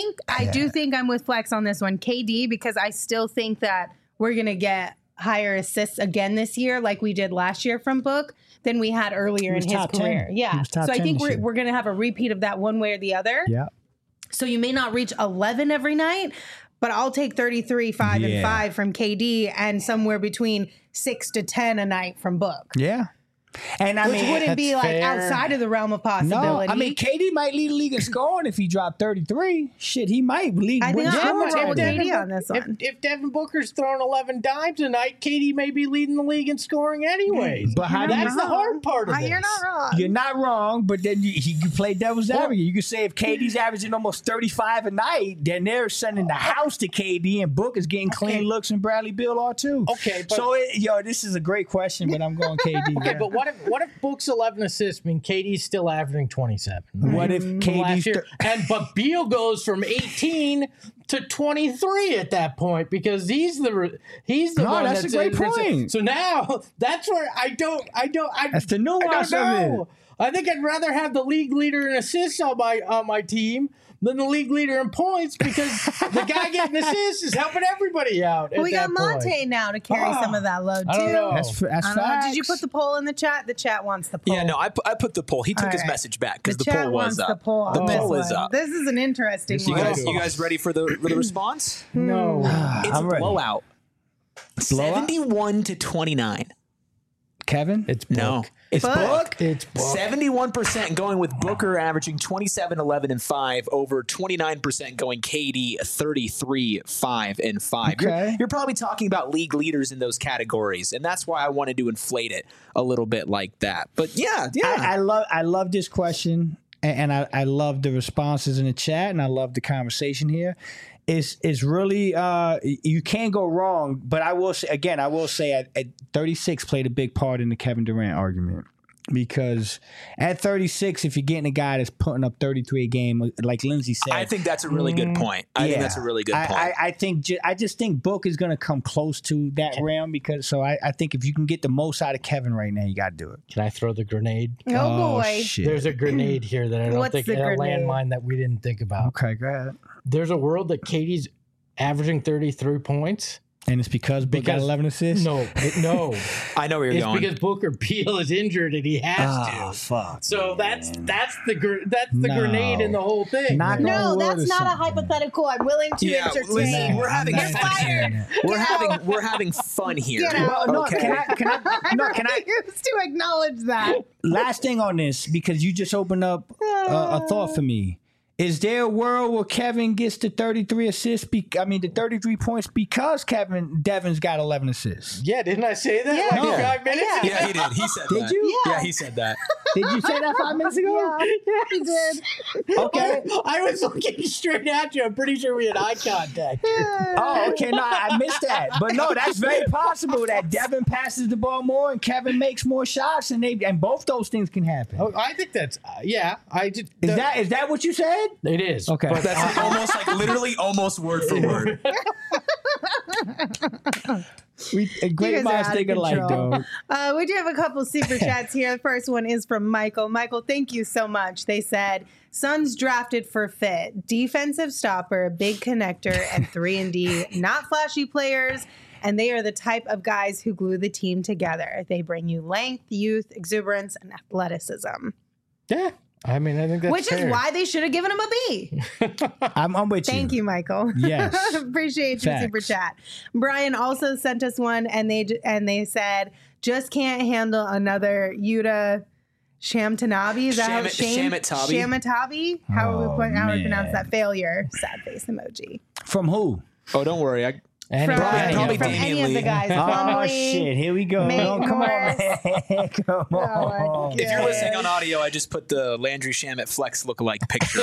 I do think I'm with Flex on this one, KD, because I still think that we're gonna get higher assists again this year, like we did last year from Book, than we had earlier in was his top 10. career. He Yeah. was top So I 10 think this year. we're gonna have a repeat of that one way or the other. Yeah. So you may not reach 11 every night, but I'll take 33, 5, and Yeah. 5 from KD and somewhere between 6 to 10 a night from Book. Yeah. And I Which mean, wouldn't be that's like fair. outside of the realm of no, possibility. I mean, KD might lead the league in scoring if he dropped 33. Shit, he might lead. I think win I'm scoring gonna roll with already. KD on this one. if Devin Booker's throwing 11 dimes a night, KD may be leading the league in scoring anyways. But how do you That's the hard part of this. You're not wrong. You're not wrong, but then you play devil's advocate. You can say if KD's averaging almost 35 a night, then they're sending the house to KD, and Book is getting clean looks, and Bradley Beal are too. Okay, but- so this is a great question, but I'm going KD. Okay, yeah. but what if Book's 11 assists mean KD's still averaging 27? What if Last KD's year, but Beal goes from 18 to 23 at that point because he's the No, one that's a great point. So now that's where I don't That's the I nuance don't of it. know. I think I'd rather have the league leader in assists on my team than the league leader in points because the guy getting assists is helping everybody out. We got Monte now to carry some of that load too. I don't know. That's I don't know. facts. Did you put the poll in the chat? The chat wants the poll. Yeah, no, I put the poll. He took All his right. message back because the chat poll wants was up. the poll. The on this poll is one. up. This is an interesting You one. guys ready for the response? No. It's I'm a ready. blowout. Blowout? 71 to 29. Kevin? It's Book. No, it's Book. Book. It's Book. 71% going with Booker averaging 27, 11, and 5 over 29% going KD 33, 5, and 5. Okay. You're probably talking about league leaders in those categories, and that's why I wanted to inflate it a little bit like that. But yeah. I love this question, and I love the responses in the chat, and I love the conversation here. It's really you can't go wrong. But I will say at 36 played a big part in the Kevin Durant argument. Because at 36, if you're getting a guy that's putting up 33 a game, like Lindsay said, I think that's a really good point. I think that's a really good point. I just think Book is going to come close to that realm because I think if you can get the most out of Kevin right now, you got to do it. Can I throw the grenade? Oh boy. Shit. There's a grenade here that I don't What's think the a grenade? landmine that we didn't think about. Okay, go ahead. There's a world that Katie's averaging 33 points. And it's because Book got 11 assists? No. I know where you're It's going. because Booker Beal is injured and he has Oh, to. fuck. So that's the No. grenade in the whole thing. Not man. gonna- No, Word that's or not a something. hypothetical. I'm willing to Yeah, entertain. listen, we're having You're fun fired. here. Get We're having fun here. Get out. No, Okay. can I refuse to acknowledge that. last thing on this, because you just opened up a thought for me. Is there a world where Kevin gets the 33 assists? The 33 points because Devin's got 11 assists. Yeah, didn't I say that Yeah. like No. 5 minutes Yeah. ago? Yeah, he did. He said Did that. you? Yeah, he said that. Did you say that 5 minutes ago? Yeah, he did. Okay. I was looking straight at you. I'm pretty sure we had eye contact. Oh, okay. No, I missed that. But no, that's very possible that Devin passes the ball more and Kevin makes more shots, and both those things can happen. Oh, I think that's I did. Is that what you said? It is. Okay. But That's almost like literally almost word for word. Great minds think alike, dog. We do have a couple super chats here. The first one is from Michael. Michael, thank you so much. They said, Suns drafted for fit, defensive stopper, big connector, and 3-and-D. Not flashy players, and they are the type of guys who glue the team together. They bring you length, youth, exuberance, and athleticism. yeah. I mean, I think that's Which fair. is why they should have given him a B. I'm with you. Thank you, Michael. Yes. Appreciate your Facts. super chat. Brian also sent us one, and they said, just can't handle another Yuta Shamtanabi. Is that how Shamatabi. Shamatabi? How Oh, would we pronounce man. that? Failure. Sad face emoji. From who? Oh, don't worry. Anyway, probably from Damian any of the Lee. guys. Oh, Plumlee, shit. Here we go. May Come on, Morris. man. Come my on. If you're God. listening on audio, I just put the Landry Shamet Flex lookalike picture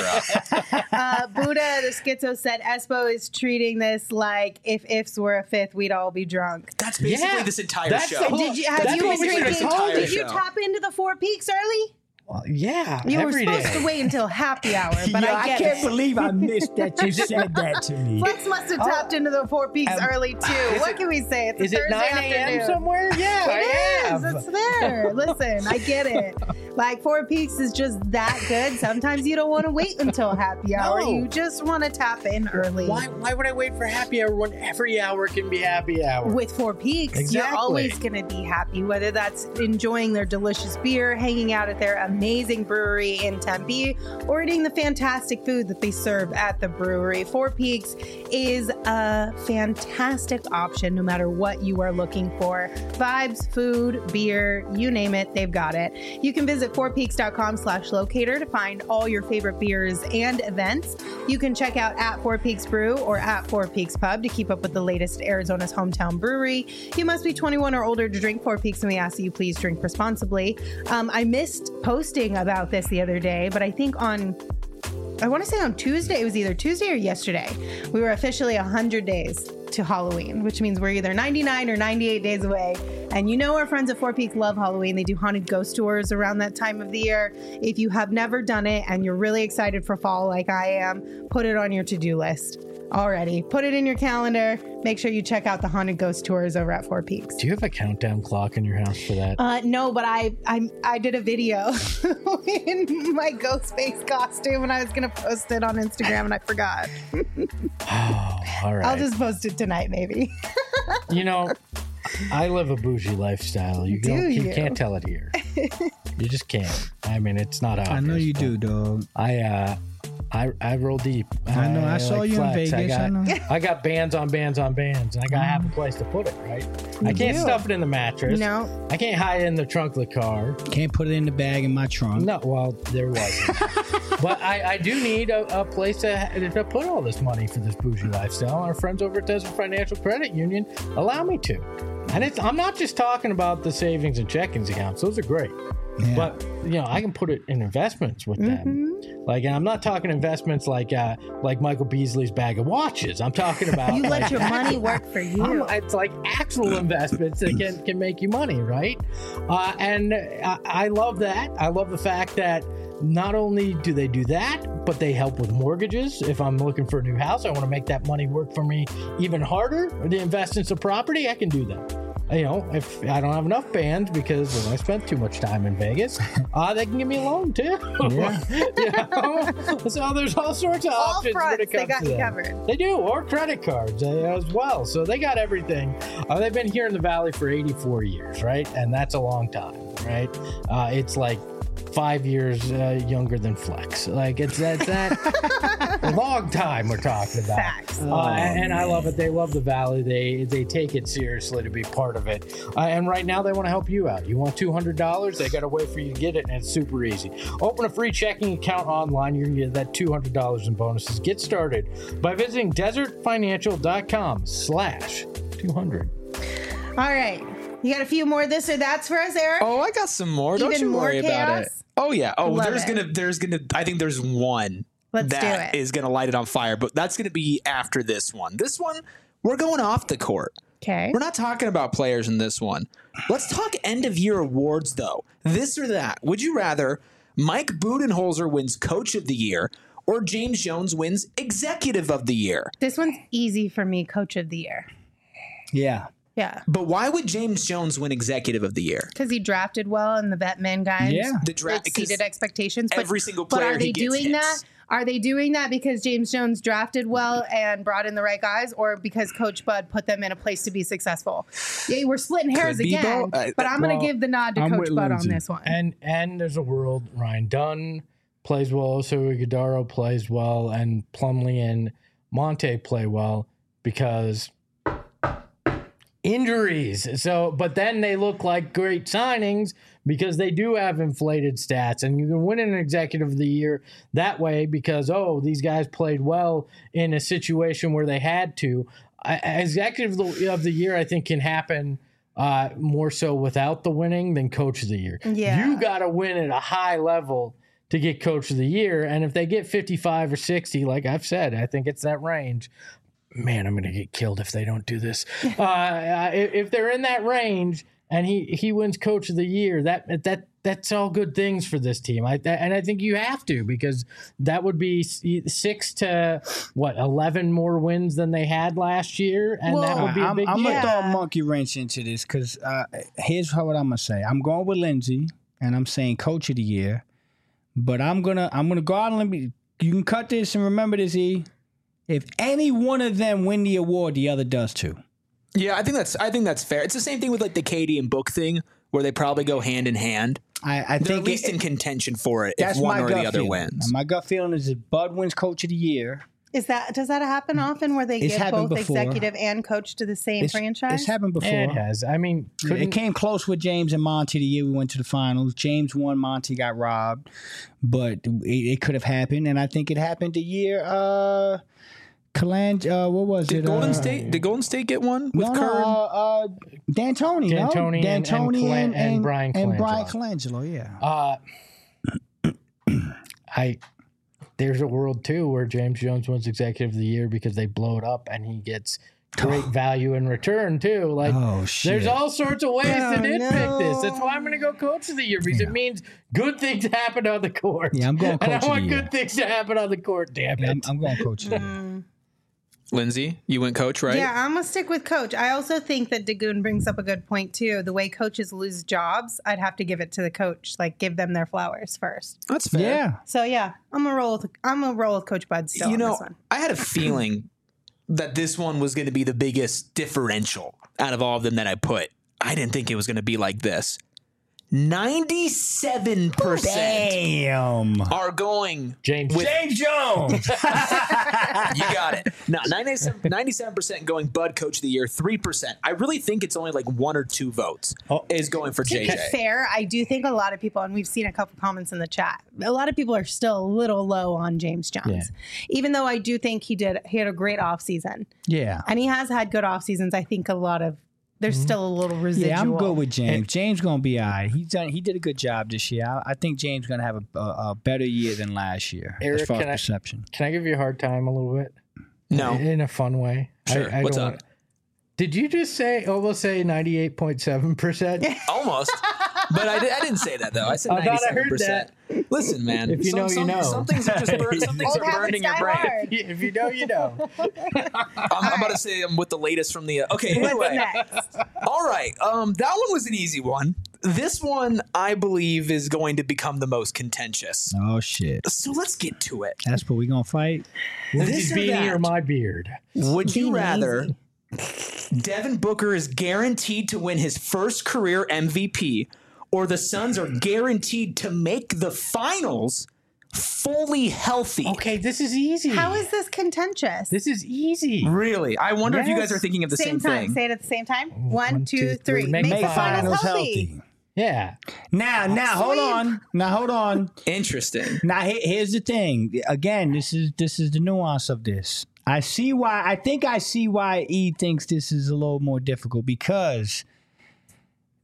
up. Buddha the Schizo said Espo is treating this like if ifs were a fifth, we'd all be drunk. That's basically Yeah. this entire That's show. the whole- Have That's you been basically this drinking? entire Did you show. tap into the Four Peaks early? Well, yeah. You were every supposed day. to wait until happy hour, but Yo, I get can't it. believe I missed that you said that to me. Flex must have tapped into the Four Peaks early too. What can we say? It's a Is it Thursday 9 a.m. afternoon. somewhere? Yeah, I It is. have. It's there. Listen, I get it. Like Four Peaks is just that good. Sometimes you don't want to wait until happy hour. No. You just want to tap in early. Why would I wait for happy hour when every hour can be happy hour? With Four Peaks, Exactly. you're always going to be happy, whether that's enjoying their delicious beer, hanging out at their amazing brewery in Tempe, or eating the fantastic food that they serve at the brewery. Four Peaks is a fantastic option no matter what you are looking for. Vibes, food, beer, you name it, they've got it. You can visit fourpeaks.com/locator to find all your favorite beers and events. You can check out at Four Peaks Brew or at Four Peaks Pub to keep up with the latest Arizona's hometown brewery. You must be 21 or older to drink Four Peaks, and we ask that you please drink responsibly. I missed posting about this the other day, but I think I want to say on Tuesday, it was either Tuesday or yesterday, we were officially 100 days to Halloween, which means we're either 99 or 98 days away. And you know our friends at Four Peaks love Halloween. They do haunted ghost tours around that time of the year. If you have never done it and you're really excited for fall like I am, put it on your to-do list already. Put it in your calendar. Make sure you check out the haunted ghost tours over at Four Peaks. Do you have a countdown clock in your house for that? No, but I did a video in my ghost face costume and I was going to post it on Instagram and I forgot. Oh, all right. I'll just post it tonight, maybe. You know, I live a bougie lifestyle. You can't tell it here. You just can't. I mean, it's not obvious. I know you do, dog. I roll deep. I know. I saw like you in flex. Vegas. I know. I got bands on bands on bands, and I gotta have a place to put it, right? I can't do. stuff it in the mattress. No. I can't hide it in the trunk of the car. Can't put it in the bag in my trunk. No, well, there wasn't. But I do need a place to put all this money for this bougie lifestyle. Our friends over at Desert Financial Credit Union allow me to. And I'm not just talking about the savings and checkings accounts. Those are great. Yeah. But, you know, I can put it in investments with them. Like, and I'm not talking investments like Michael Beasley's bag of watches. I'm talking about You let your money work for you. it's like actual investments that can make you money, right? And I love that. I love the fact that not only do they do that, but they help with mortgages. If I'm looking for a new house, I want to make that money work for me even harder. Or to invest in some property, I can do that. You know, if I don't have enough bands because I spent too much time in Vegas, they can give me a loan too. Yeah. You know? So there's all sorts of All options when fronts, it comes they got to you that. covered. They do, or credit cards as well. So they got everything. They've been here in the Valley for 84 years, right? And that's a long time, right? It's like 5 years younger than Flex. Like it's that a long time we're talking about. Facts. And I love it. They love the Valley. They take it seriously to be part of it. And right now they want to help you out. You want $200? They got a way for you to get it, and it's super easy. Open a free checking account online. You're going to get that $200 in bonuses. Get started by visiting desertfinancial.com/200. All right. You got a few more this or that's for us, Eric? Oh, I got some more. Don't Even you worry more about it. chaos? Oh yeah. Oh, Love there's gonna. I think there's one Let's do that it. is gonna light it on fire, but that's gonna be after this one. This one, we're going off the court. Okay. We're not talking about players in this one. Let's talk end of year awards though. This or that. Would you rather Mike Budenholzer wins Coach of the Year or James Jones wins Executive of the Year? This one's easy for me, Coach of the Year. Yeah. Yeah. But why would James Jones win Executive of the Year? Because he drafted well and the Batman guys Yeah. The draft exceeded expectations. every single player But are they he gets doing hits. that? Are they doing that because James Jones drafted well and brought in the right guys, or because Coach Bud put them in a place to be successful? Yeah, we're splitting hairs Could be again, both. but I'm going to give the nod to I'm Coach with Bud Lindsay. on this one. And there's a world Ryan Dunn plays well, so Iguodala plays well, and Plumlee and Monte play well because injuries. So, but then they look like great signings because they do have inflated stats, and you can win an Executive of the Year that way because, oh, these guys played well in a situation where they had to. Executive of the Year, I think, can happen more so without the winning than Coach of the Year. Yeah. You got to win at a high level to get Coach of the Year, and if they get 55 or 60, like I've said, I think it's that range. Man, I'm going to get killed if they don't do this. If they're in that range and he wins Coach of the Year, that's all good things for this team. And I think you have to, because that would be 6 to 11 more wins than they had last year, and that would be a big I'm deal. gonna throw a monkey wrench into this because here's what I'm gonna say. I'm going with Lindsay, and I'm saying Coach of the Year, but I'm gonna go out and let me. You can cut this and remember this, E. If any one of them win the award, the other does too. Yeah, I think that's fair. It's the same thing with like the Katie and Book thing, where they probably go hand in hand. I They're think at least in contention for it that's if one my or gut the other feeling. wins. And my gut feeling is if Bud wins Coach of the Year, Does that happen often where they It's give happened both before. executive and coach to the same franchise? it's happened before. Yeah, it has. I mean, It came close with James and Monty the year we went to the finals. James won, Monty got robbed, but it could have happened, and I think it happened the year. What was Did it? Golden State? Did Golden State get one with Curry? D'Antoni, no? D'Antoni and Brian and Brian Colangelo. Colangelo, yeah. There's a world too where James Jones wins Executive of the Year because they blow it up and he gets great value in return too. Like, Oh, shit. there's all sorts of ways to Oh, nitpick this. no. That's why I'm going to go Coach of the Year, because it means good things happen on the court. Yeah, I'm going and Coach I of the want Year. good things to happen on the court. Damn it! Yeah, I'm going Coach of the Year. Lindsay, you went Coach, right? Yeah, I'm gonna stick with Coach. I also think that Dagoon brings up a good point too. The way coaches lose jobs, I'd have to give it to the coach. Like, give them their flowers first. That's fair. Yeah. So yeah, I'm gonna roll with Coach Bud still You on know, this one. I had a feeling that this one was going to be the biggest differential out of all of them that I put. I didn't think it was going to be like this. 97% Damn. are going James with James Jones. you got it. No, 97% going Bud Coach of the Year, 3%. I really think it's only like 1 or 2 votes is going for To be JJ. fair, I do think a lot of people, and we've seen a couple comments in the chat, a lot of people are still a little low on James Jones. Even though I do think he had a great offseason. Yeah. And he has had good off seasons. I think there's still a little residual. Yeah, I'm good with James. James gonna be all right. He did a good job this year. I think James gonna have a better year than last year Eric, as far can I- as perception. Can I give you a hard time a little bit? No. In a fun way. Sure. I What's don't up? want- Did you just almost say 98.7%? Almost. But I didn't say that, though. I said I thought I 97%. heard that. Listen, man. If you know, you know. Some things are just some things Old are burned habits in your die brain. hard. If you know, you know. I'm about to say I'm with the latest from the. Okay, What's anyway. next? All right. That one was an easy one. This one, I believe, is going to become the most contentious. Oh shit. So let's get to it. That's what we gonna fight. Lindsay's or beanie that? or my beard? Would you Being rather easy. Devin Booker is guaranteed to win his first career MVP, or the Suns are guaranteed to make the finals fully healthy? Okay, this is easy. How is this contentious? This is easy. Really? I wonder if you guys Yes. are thinking of the same time. thing. Say it at the same time. One, One, two, two, three. three. Make Make the the finals healthy. Yeah. Now hold on. Now hold on. Interesting. Now here's the thing. Again, this is the nuance of this. I see why. I think I see why E thinks this is a little more difficult because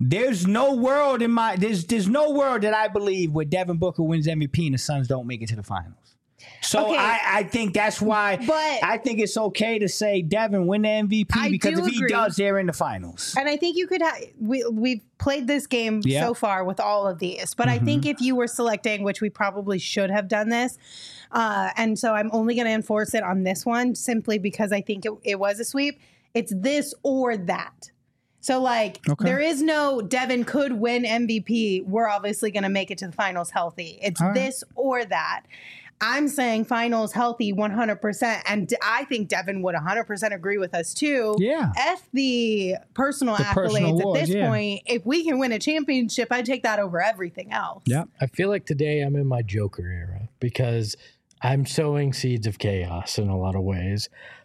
There's no world there's no world that I believe where Devin Booker wins MVP and the Suns don't make it to the finals. So Okay. I think that's why But- I think it's okay to say Devin win the MVP I because do if he agree. does, they're in the finals. And I think you could we've played this game Yeah. so far with all of these, but I think if you were selecting, which we probably should have done this, and so I'm only going to enforce it on this one simply because I think it was a sweep. It's this or that. So like there is no Devin could win MVP. We're obviously going to make it to the finals healthy. It's this or that. I'm saying finals healthy 100%. And I think Devin would 100% agree with us too. Yeah. F the personal accolades personal at awards, this yeah. point. If we can win a championship, I'd take that over everything else. Yep. I feel like today I'm in my Joker era because I'm sowing seeds of chaos in a lot of ways.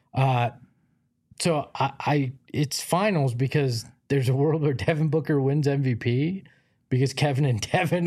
So I it's finals because there's a world where Devin Booker wins MVP because Kevin and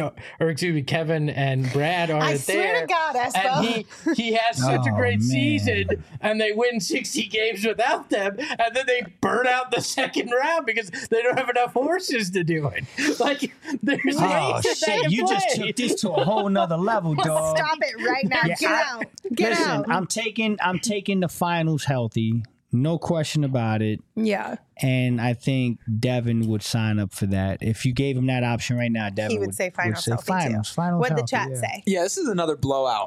Brad aren't I swear there. to God, Espo. And he has such a Oh, great man. season, and they win 60 games without them, and then they burn out the second round because they don't have enough horses to do it. Like there's ways Oh that they shit! can You just play. took this to a whole nother level, dog. Stop it right now. Yeah, Get out. Get Listen, out. I'm taking the finals healthy, no question about it. Yeah. And I think Devin would sign up for that. If you gave him that option right now, Devin He would say finals say healthy finals. too. Finals What'd the healthy, chat yeah. say? Yeah, this is another blowout.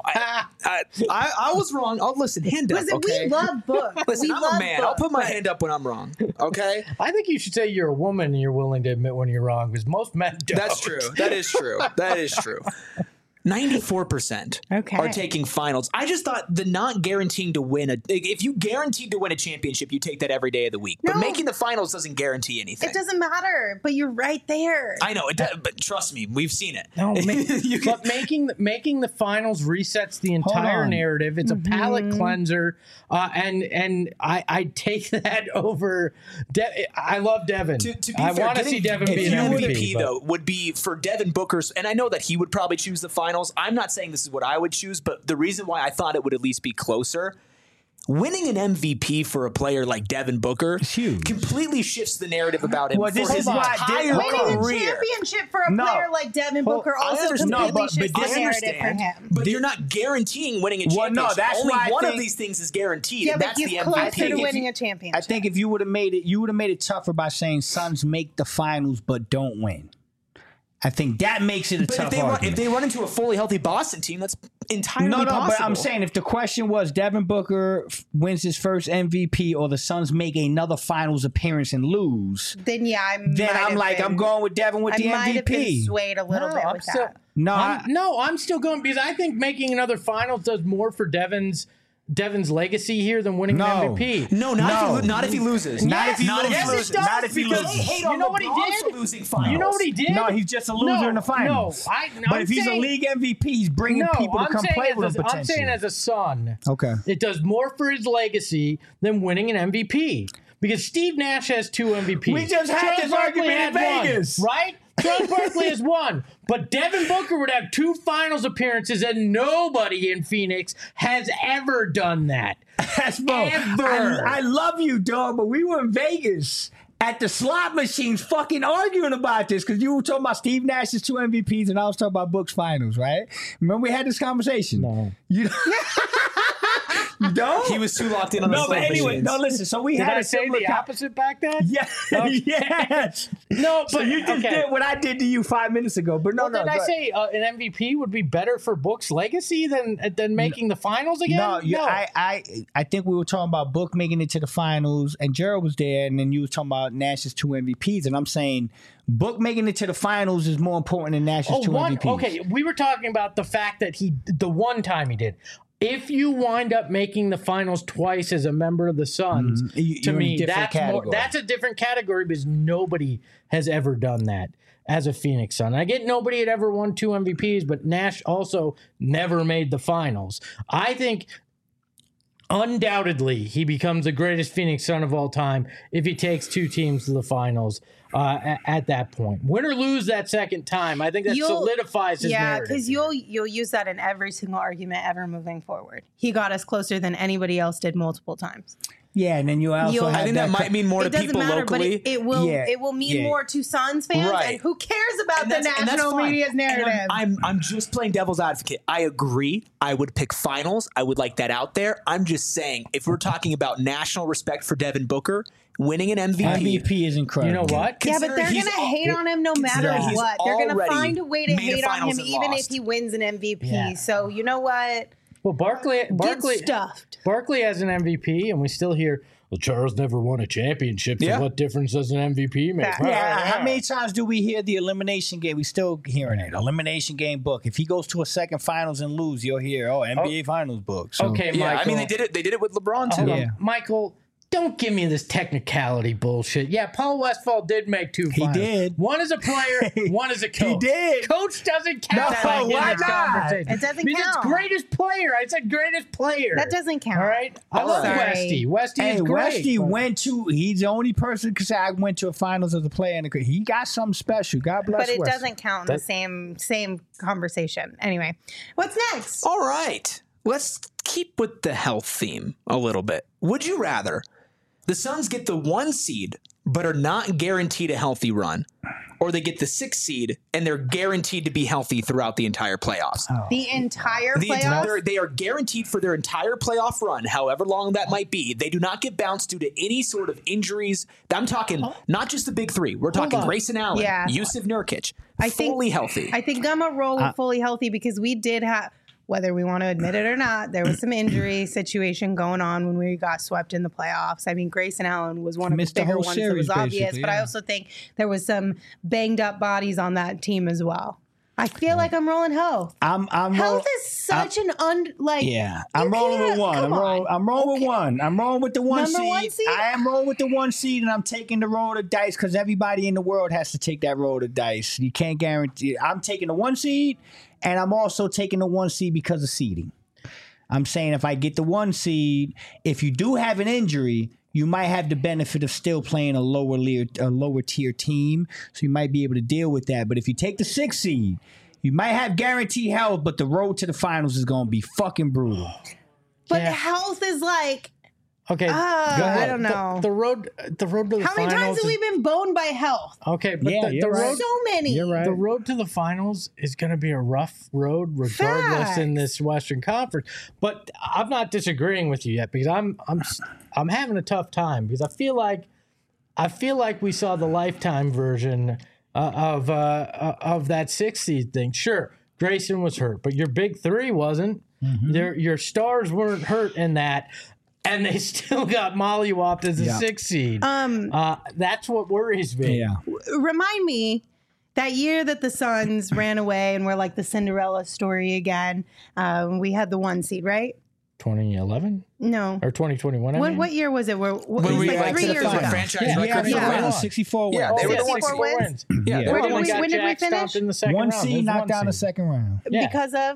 I was wrong. Oh, listen, hand up, Listen, okay? we love Book. Listen, we I'm love a man. Book, I'll put my but- hand up when I'm wrong, okay? I think you should say you're a woman and you're willing to admit when you're wrong because most men don't. That's true. That is true. That is true. 94% Okay. are taking finals. I just thought the not guaranteeing to win if you guaranteed to win a championship, you take that every day of the week. But No. making the finals doesn't guarantee anything. It doesn't matter, but you're right there. I know it does, but trust me, we've seen it. No, You can- but making the finals resets the entire on. narrative. It's a palate Mm-hmm. cleanser, and I take that over. I love Devin. To be I fair, want to getting- see Devin if be you an MVP MVP. though would be for Devin Booker's, and I know that he would probably choose the finals. I'm not saying this is what I would choose, but the reason why I thought it would at least be closer. Winning an MVP for a player like Devin Booker huge. completely shifts the narrative about him Well, for this his is why- entire Winning a career. championship for a No. player like Devin Booker I also understand. completely No, but shifts I the narrative for understand, him. but you're not guaranteeing winning a Well, championship. no, that's Only why I one of think- these things is guaranteed, Yeah, and but that's he's the closer MVP. to winning a championship. I think if you would have made it tougher by saying Suns make the finals but don't win. I think that makes it a But tough if argument. they run into a fully healthy Boston team, that's entirely No, possible. but I'm saying if the question was Devin Booker wins his first MVP or the Suns make another finals appearance and lose, then yeah, I'm going with Devin with I the might have been MVP. swayed a little No, bit I'm with still- that. No, I'm still going because I think making another finals does more for Devin's legacy here than winning No. an MVP. No, not if he loses. Not if he Not loses. if he Yes, loses. it does, Not if he because loses. Hate you on know what he LeBron did? for losing finals. You know what he did? No, he's just a loser in the finals. No, but if he's a league MVP, he's bringing people to come play with him I'm potentially. saying as a son, Okay. it does more for his legacy than winning an MVP. Because Steve Nash has 2 MVPs. We just had Charles this Barkley argument in had one, Vegas. right? Charles Barkley has 1. But Devin Booker would have 2 finals appearances, and nobody in Phoenix has ever done that. That's bro. Ever. I love you, dog, but we were in Vegas at the slot machines fucking arguing about this because you were talking about Steve Nash's 2 MVPs and I was talking about Book's finals, right? Remember we had this conversation? No. You don't? He was too locked in on the No, but slot anyway, machines. no, listen. So we Did had I a say similar the opposite back then? Yeah, yes. No, So but you just okay. did what I did to you 5 minutes ago, but no, Well, did I say an MVP would be better for Book's legacy than making the finals again? No, I think we were talking about Book making it to the finals, and Gerald was there, and then you were talking about Nash's 2 MVPs, and I'm saying Book making it to the finals is more important than Nash's 2 MVPs. Okay, we were talking about the fact that the one time he did. If you wind up making the finals twice as a member of the Suns, to You're in a me, different category. that's a different category because nobody has ever done that as a Phoenix Sun. I get nobody had ever won 2 MVPs, but Nash also never made the finals. I think undoubtedly he becomes the greatest Phoenix Sun of all time if he takes 2 teams to the finals at that point. Win or lose that second time, I think that solidifies his narrative. because you'll use that in every single argument ever moving forward. He got us closer than anybody else did multiple times. Yeah, and then you also have I think that might mean more to It doesn't people matter, locally. but it will. Yeah. It will mean Yeah. more to Suns fans. Right. And who cares about And the that's national fine. media's And narrative? I'm just playing devil's advocate. I agree. I would pick finals. I would like that out there. I'm just saying, if we're talking about national respect for Devin Booker, winning an MVP. MVP is incredible. You know what? Yeah, but they're Considering going to hate on him no matter considering he's what. They're going to already find a way to made a hate on finals him and even lost. if he wins an MVP. Yeah. So you know what? Well, Barkley Get stuffed. Barkley has an MVP, and we still hear, well, Charles never won a championship, so Yeah. what difference does an MVP make? Fact. Yeah, how many times do we hear the elimination game? We still hearing it. Elimination game book. If he goes to a second finals and lose, you'll hear, NBA finals book. So, Okay, Yeah, Michael. I mean, they did it. They did it with LeBron too. Hold on. Yeah. Michael, don't give me this technicality bullshit. Yeah, Paul Westphal did make 2 finals. did. One as a player, one as a coach. did. Coach doesn't count. No, in why this not? conversation. It doesn't because count. it's greatest player. I said greatest player. That doesn't count. All right. I love Sorry. Westy. Westy Hey, is great. Westy but- went to. He's the only person because I went to a finals as a player, and he got something special. God bless. But it Westy. doesn't count in the same conversation. Anyway, what's next? All right. Let's keep with the health theme a little bit. Would you rather the Suns get the 1 seed but are not guaranteed a healthy run, or they get the 6 seed and they're guaranteed to be healthy throughout the entire playoffs? The entire The playoffs? they are guaranteed for their entire playoff run, however long that might be. They do not get bounced due to any sort of injuries. I'm talking not just the big 3. We're talking on. Grayson Allen, Yeah. Yusuf Nurkic, I think- fully healthy. I think I'm a roll with fully healthy because we did have, whether we want to admit it or not, there was some injury situation going on when we got swept in the playoffs. I mean, Grayson Allen was one of Missed the the bigger whole ones that series, was obvious, basically, but I yeah. also think there was some banged up bodies on that team as well. I feel like I'm rolling health. I'm Health is such an Yeah, I'm you rolling with can't- one. come on. I'm rolling with one. I'm rolling with the one Number seed. 1 seed? I am rolling with the 1 seed, and I'm taking the roll of the dice because everybody in the world has to take that roll of the dice. You can't guarantee. I'm taking the 1 seed, and I'm also taking the 1 seed because of seeding. I'm saying if I get the 1 seed, if you do have an injury, you might have the benefit of still playing a lower tier team, so you might be able to deal with that. But if you take the 6 seed, you might have guaranteed health, but the road to the finals is going to be fucking brutal. But Yeah. health is like, Okay. I don't know. The road to the how many finals. times have we been boned by health? Okay, but Yeah, the you're road. right. So many. You're right. The road to the finals is going to be a rough road, regardless in this Western Conference. But I'm not disagreeing with you yet because I'm having a tough time because I feel like we saw the lifetime version of that 6 seed thing. Sure, Grayson was hurt, but your big 3 wasn't. Your stars weren't hurt in that. And they still got mollywopped as a 6 seed. That's what worries me. Yeah. Remind me that year that the Suns ran away and were like the Cinderella story again. We had the 1 seed, right? 2011 No. or 2021. I mean? What year was it? It was When we like went 3 to the years final. ago. Franchise Yeah, record yeah, for yeah. wins. 64 wins. Yeah, they were the 64 ones. wins. Yeah, Yeah, they they're were the the ones ones. When did we Jack finish? stomped in the second 1 round. seed There's knocked one down the seed. second round Yeah. Because of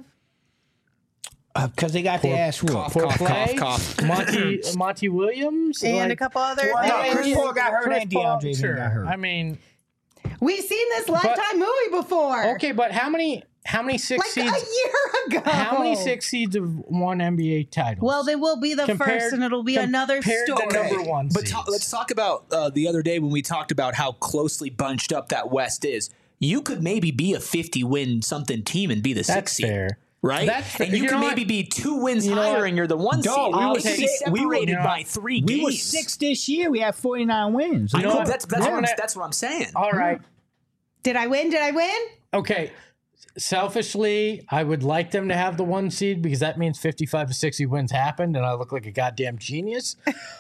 because they got their ass whooped. Cough, For cough, play, cough, cough. Monty Williams, and a couple other. Well, no, and- Chris Paul got hurt Chris and Paul, DeAndre sure. got hurt. I mean, We've seen this Lifetime movie before. okay, but how many 6 Like seeds? a year ago. How many 6 seeds have won NBA titles? Well, they will be the first, and it'll be another compared to story. number 1 But seeds. let's talk about the other day when we talked about how closely bunched up that West is. You could maybe be a 50-win something team and be the 6th That's seed. fair. Right? That's fair. And you You could know maybe what? be 2 wins You know higher what? and you're the 1 seed. Dog, we You were could be six- we were- separated you know, by 3 We games. were 6 this year. We had 49 wins. I know know, what? that's what I'm saying. All right. Did I win? Did I win? Okay. Selfishly, I would like them to have the 1 seed because that means 55 to 60 wins happened and I look like a goddamn genius.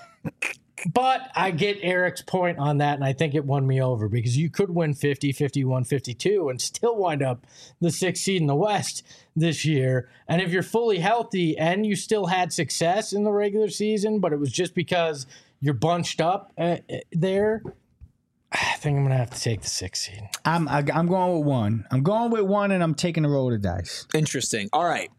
But I get Eric's point on that, and I think it won me over because you could win 50, 51, 52 and still wind up the 6th seed in the West this year. And if you're fully healthy and you still had success in the regular season, but it was just because you're bunched up there, I think I'm going to have to take the 6th seed. I'm going with 1. I'm going with 1, and I'm taking the roll of the dice. Interesting. All right.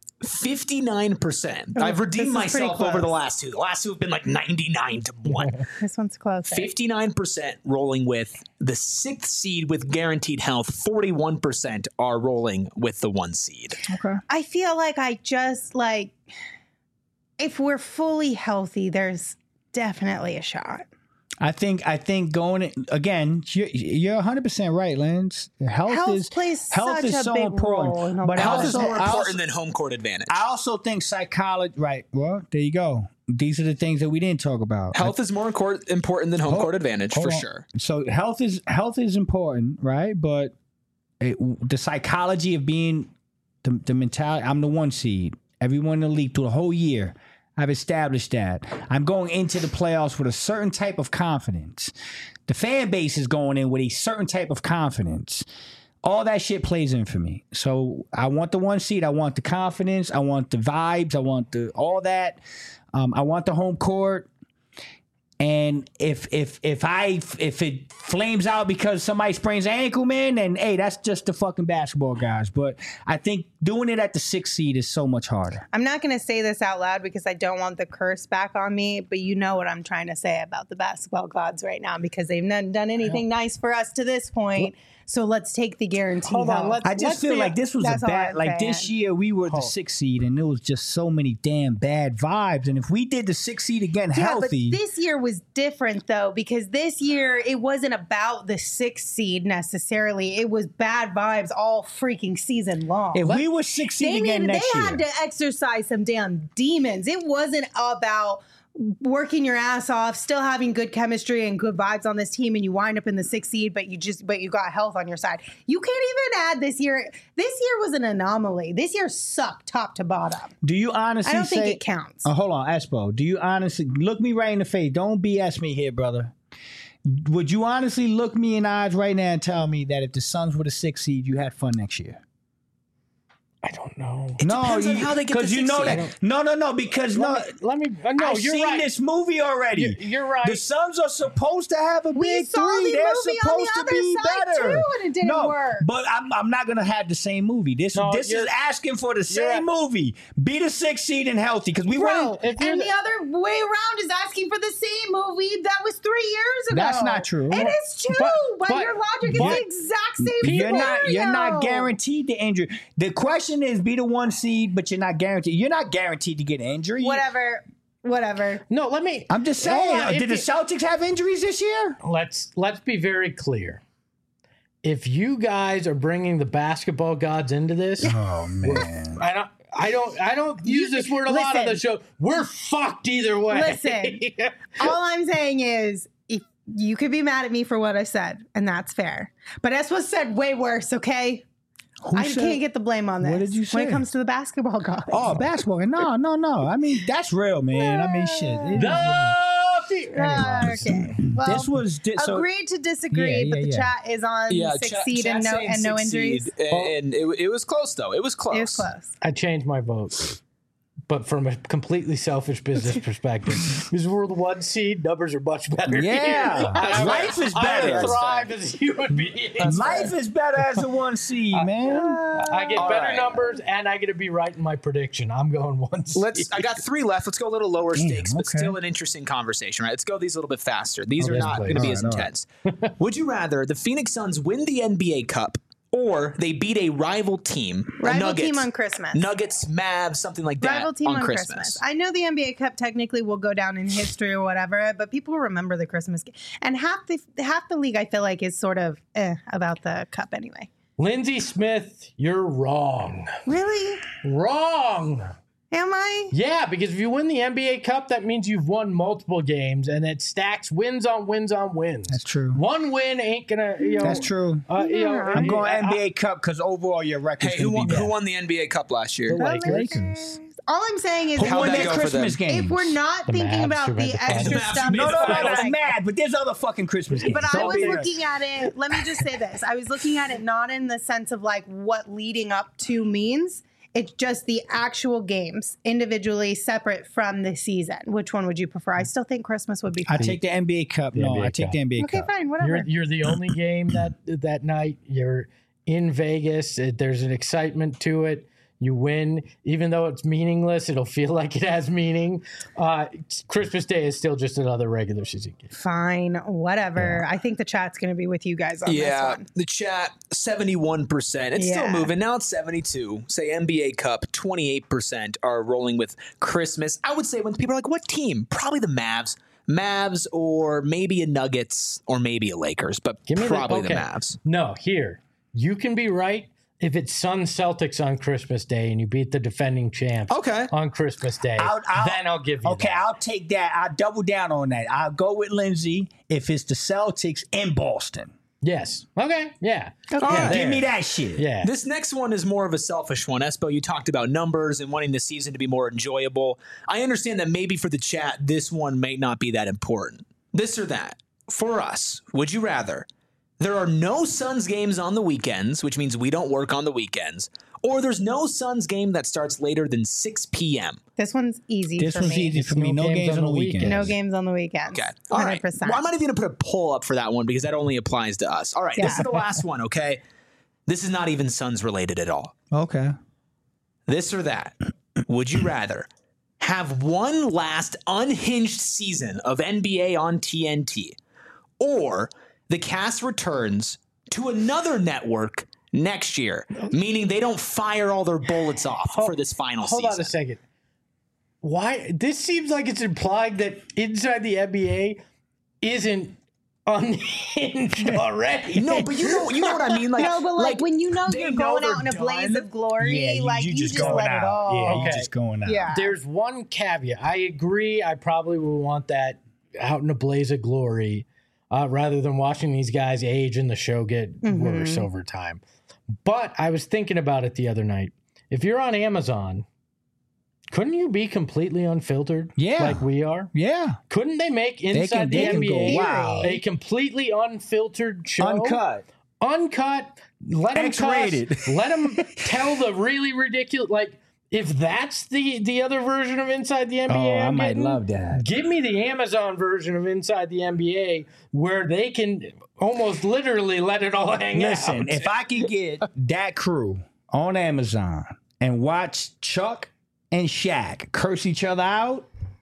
59%. I've this redeemed is pretty myself over the close. last 2. The last 2 have been like 99 to 1. This one's close. 59% rolling with the 6th seed with guaranteed health. 41% are rolling with the 1 seed. Okay. I feel like I just like if we're fully healthy, there's definitely a shot. I think going again. You're 100% right, Lance. Health plays such a so big important, role in a but lot Health of is more important than home court advantage. I also think psychology. Right. Well, there you go. These are the things that we didn't talk about. Health is more important than home court advantage for sure. So health is important, right? But the psychology of being the mentality. I'm the 1 seed. Everyone in the league through the whole year. I've established that. I'm going into the playoffs with a certain type of confidence. The fan base is going in with a certain type of confidence. All that shit plays in for me. So I want the 1 seed. I want the confidence. I want the vibes. I want all that. I want the home court. And if it flames out because somebody sprains an ankle, man, then hey, that's just the fucking basketball guys. But I think doing it at the 6th seed is so much harder. I'm not going to say this out loud because I don't want the curse back on me, but you know what I'm trying to say about the basketball gods right now because they've not done anything nice for us to this point. So let's take the guarantee. Hold on, I just feel like this was a bad, like this year we were the 6th seed and there was just so many damn bad vibes. And if we did the 6th seed again healthy. But this year was different though, because this year it wasn't about the 6th seed necessarily. It was bad vibes all freaking season long. If we were 6th seed again next year. They had to exercise some damn demons. It wasn't about working your ass off, still having good chemistry and good vibes on this team, and you wind up in the 6th seed, but you got health on your side. You can't even add this year. This year was an anomaly. This year sucked top to bottom. Do you honestly? I don't think it counts. Hold on, Espo. Do you honestly look me right in the face? Don't BS me here, brother. Would you honestly look me in the eyes right now and tell me that if the Suns were the 6th seed, you had fun next year? I don't know. It depends on how they get because you know that. No, because let me. No, I've you're seen right. this movie already. You're right. The Suns are supposed to have a We big saw three. the They're movie on supposed the to be other side, better. too, and it didn't work. But I'm not gonna have the same movie. This is asking for the same movie. Be the 6th seed and healthy because we Bro, and the other way around is asking for the same movie that was 3 years ago. That's not true. It is true. But your logic is the exact same. You're not guaranteed the injury. The question is, be the 1 seed, but you're not guaranteed. You're not guaranteed to get an injury. Whatever. No, let me. I'm just saying. Did the Celtics have injuries this year? Let's be very clear. If you guys are bringing the basketball gods into this, oh man, I don't use this word a lot on the show. We're fucked either way. Listen, all I'm saying is, if you could be mad at me for what I said, and that's fair. But Espo said way worse. Okay. Can't get the blame on this. What did you say? When it comes to the basketball gods. Oh, basketball. No. I mean, that's real, man. I mean, shit. Okay. Well, this was agreed to disagree, but the chat is on 6th seed and no injuries. And it was close though. It was close. It was close. I changed my vote. But from a completely selfish business perspective, because we're the 1 seed, numbers are much better. Yeah, life is better. I thrive as a human being. Life is better as a 1 seed, man. I get better numbers, and I get to be right in my prediction. I'm going 1 seed. I got 3 left. Let's go a little lower stakes, but still an interesting conversation, right? Let's go these a little bit faster. These are not going to be as intense. Would you rather the Phoenix Suns win the NBA Cup, or they beat a rival team, team on Christmas. Nuggets, Mavs, something like that. Rival team on Christmas. I know the NBA Cup technically will go down in history or whatever, but people remember the Christmas game. And half the league, I feel like, is sort of about the cup anyway. Lindsey Smith, you're wrong. Really? Wrong. Am I? Yeah, because if you win the NBA Cup, that means you've won multiple games, and it stacks wins on wins on wins. That's true. One win ain't gonna. That's true. I'm going NBA Cup because overall your record's who won the NBA Cup last year? The Lakers. All I'm saying is, who won their Christmas game? If we're not thinking about the extra stuff, no, that's mad. But there's other fucking Christmas games. But I was looking at it. Let me just say this: I was looking at it not in the sense of like what leading up to means. It's just the actual games individually separate from the season. Which one would you prefer? I still think Christmas would be fun. I take the NBA Cup. I take the NBA Cup. Okay, fine, whatever. You're the only game that night. You're in Vegas. There's an excitement to it. You win. Even though it's meaningless, it'll feel like it has meaning. Christmas Day is still just another regular season game. Fine, whatever. Yeah. I think the chat's going to be with you guys on this one. The chat, 71%. It's still moving. Now it's 72. Say NBA Cup, 28% are rolling with Christmas. I would say when people are like, what team? Probably the Mavs. Mavs or maybe a Nuggets or maybe a Lakers, but probably the Mavs. No, here. You can be right if it's Suns Celtics on Christmas Day and you beat the defending champs on Christmas Day. Then I'll give you that. I'll take that. I'll double down on that. I'll go with Lindsay if it's the Celtics in Boston. Yes. Okay. Yeah. Okay. Yeah, Give me that shit. Yeah. This next one is more of a selfish one. Espo, you talked about numbers and wanting the season to be more enjoyable. I understand that maybe for the chat, this one may not be that important. This or that. For us, would you rather there are no Suns games on the weekends, which means we don't work on the weekends, or there's no Suns game that starts later than 6 p.m.? This one's easy This for one's me. easy for me. No games on the weekends. No games on the weekends. Okay. All right. 100%. Well, I'm not even going to put a poll up for that one because that only applies to us. All right. Yeah. This is the last one, okay? This is not even Suns related at all. Okay. This or that. Would you rather have one last unhinged season of NBA on TNT, or the cast returns to another network next year, meaning they don't fire all their bullets off for this final season? Hold on a second. Why? This seems like it's implied that inside the NBA isn't unhinged already. No, but you know what I mean. Like, No, but like when you know they you're know going out in a they're blaze done. of glory, you just going let out. it all. Yeah, Okay. you just going out. Yeah. There's one caveat. I agree. I probably would want that out in a blaze of glory rather than watching these guys age and the show get worse over time. But I was thinking about it the other night. If you're on Amazon, couldn't you be completely unfiltered? Yeah. Like we are? Yeah. Couldn't they make Inside they the can NBA go, wow. a completely unfiltered show? Uncut. Let them X-rated. Let them tell the really ridiculous. Like, if that's the other version of Inside the NBA, I might getting, love that. Give me the Amazon version of Inside the NBA where they can almost literally let it all hang out. Listen, if I can get that crew on Amazon and watch Chuck and Shaq curse each other out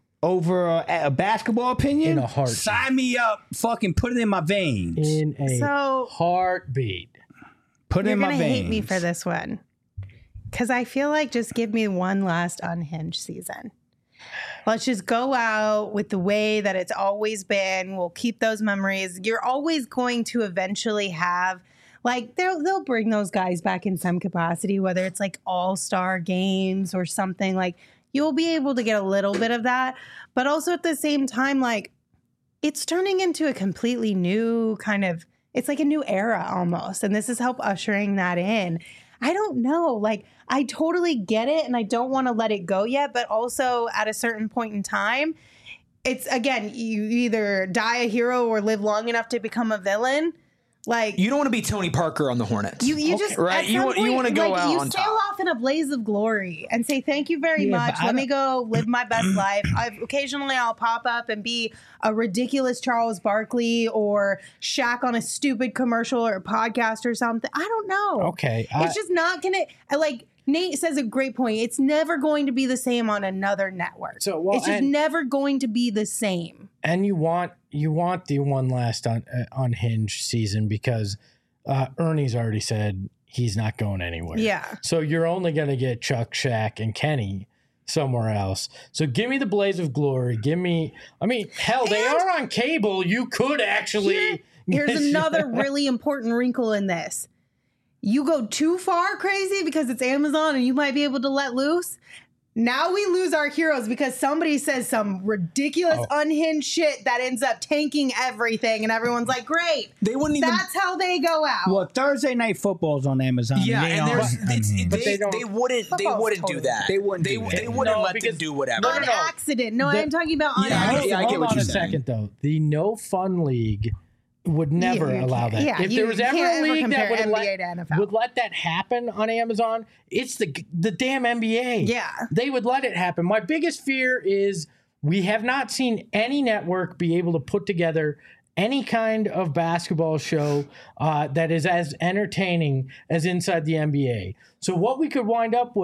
over a basketball opinion, In a heartbeat. sign me up. Fucking put it in my veins. In a So- heartbeat. Put it You're in my gonna veins. hate me for this one, because I feel like just give me one last unhinged season. Let's just go out with the way that it's always been. We'll keep those memories. You're always going to eventually have, like, they'll bring those guys back in some capacity, whether it's like all-star games or something. Like, you'll be able to get a little bit of that, but also at the same time, like, it's turning into a completely new kind of, it's like a new era almost. And this is help ushering that in. I don't know. Like, I totally get it and I don't want to let it go yet. But also at a certain point in time, it's, again, you either die a hero or live long enough to become a villain. Like, You don't want to be Tony Parker on the Hornets. you just, right? at You some want- you point, wanna go like, out you on sail top. off in a blaze of glory and say, thank you very Yeah, much. but I Let me go live my best life. Occasionally I'll pop up and be a ridiculous Charles Barkley or Shaq on a stupid commercial or a podcast or something. I don't know. Okay. It's just not going to, like, Nate says a great point. It's never going to be the same on another network. So, well, it's just and- never going to be the same. And you want the one last unhinged season because Ernie's already said he's not going anywhere. Yeah. So you're only going to get Chuck, Shaq, and Kenny somewhere else. So give me the blaze of glory. Give me, I mean, hell, they are on cable. You could actually. Here's another really important wrinkle in this. You go too far crazy because it's Amazon and you might be able to let loose. Now we lose our heroes because somebody says some ridiculous unhinged shit that ends up tanking everything and everyone's like, great. They wouldn't even. That's how they go out. Well, Thursday Night Football's on Amazon. Yeah, they and aren't there's unhinged. they wouldn't Football's do totally that. They wouldn't do that. They wouldn't No, let them because- do whatever. on accident. No, I'm talking about on Yeah, accident. I get Hold what on you're a saying. second, though. The No Fun League would never you allow can't- that. yeah, if you there was ever can't a ever league that compare would NBA to NFL. would let that happen on Amazon, it's the damn NBA. Yeah. They would let it happen. My biggest fear is we have not seen any network be able to put together any kind of basketball show that is as entertaining as Inside the NBA. So what we could wind up with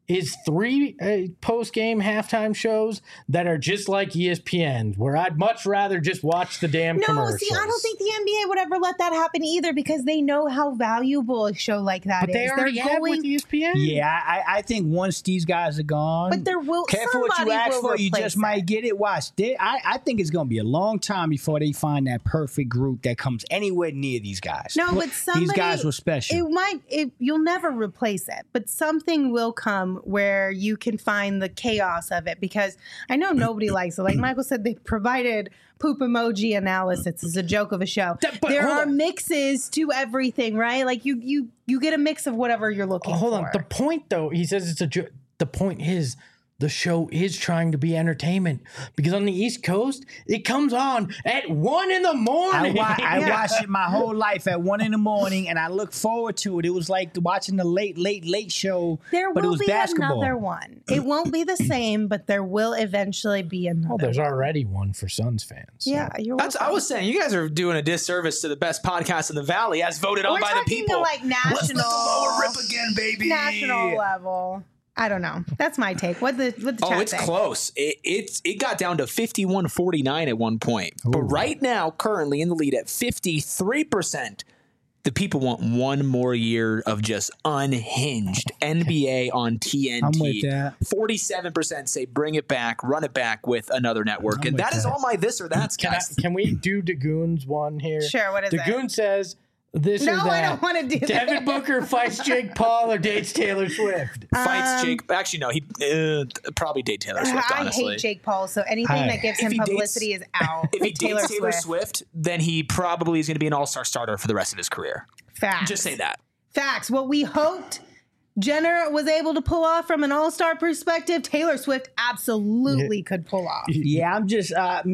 is 3 post-game halftime shows that are just like ESPN's, where I'd much rather just watch the damn commercials. See, I don't think the NBA would ever let that happen either because they know how valuable a show like that but they already have with ESPN. Yeah, I think once these guys are gone, but there will careful what you ask for, you just might get it. Watch, I think it's going to be a long time before they find that perfect group that comes anywhere near these guys. No, but these guys were special. You'll never replace it, but something will come where you can find the chaos of it because I know nobody likes it. Like Michael said, they provided poop emoji analysis as a joke of a show. There are mixes to everything, right? Like you get a mix of whatever you're looking for. Hold on. The point, though, he says it's a joke. The point is, the show is trying to be entertainment because on the East Coast, it comes on at 1 a.m. I watched it my whole life at 1 a.m, and I look forward to it. It was like watching the late show, but it was basketball. Another one. It won't be the same, but there will eventually be another. Oh, there's already one for Suns fans. So. Yeah, you're welcome. I was saying, you guys are doing a disservice to the best podcast in the Valley as voted on by the people. We're talking like national. Let's let the lower rip again, baby. National level. I don't know. That's my take. What the chat it's say? Close. It got down to 51-49 at one point. Ooh. But right now, currently in the lead at 53%, the people want one more year of just unhinged NBA on TNT. I'm with that. 47% say bring it back, run it back with another network. And that is all my this or that's, guys. Can we do Dagoon's one here? Sure, what is it? Dagoon says... This no, or that. I don't want to do that. Devin Booker fights Jake Paul or dates Taylor Swift. Fights Jake. Actually, no. He probably date Taylor Swift, honestly. I hate Jake Paul, so anything that gives him publicity is out. If he dates Taylor Swift, then he probably is going to be an all-star starter for the rest of his career. Facts. Just say that. Facts. What we hoped Jenner was able to pull off from an all-star perspective, Taylor Swift absolutely could pull off. Yeah, I'm just,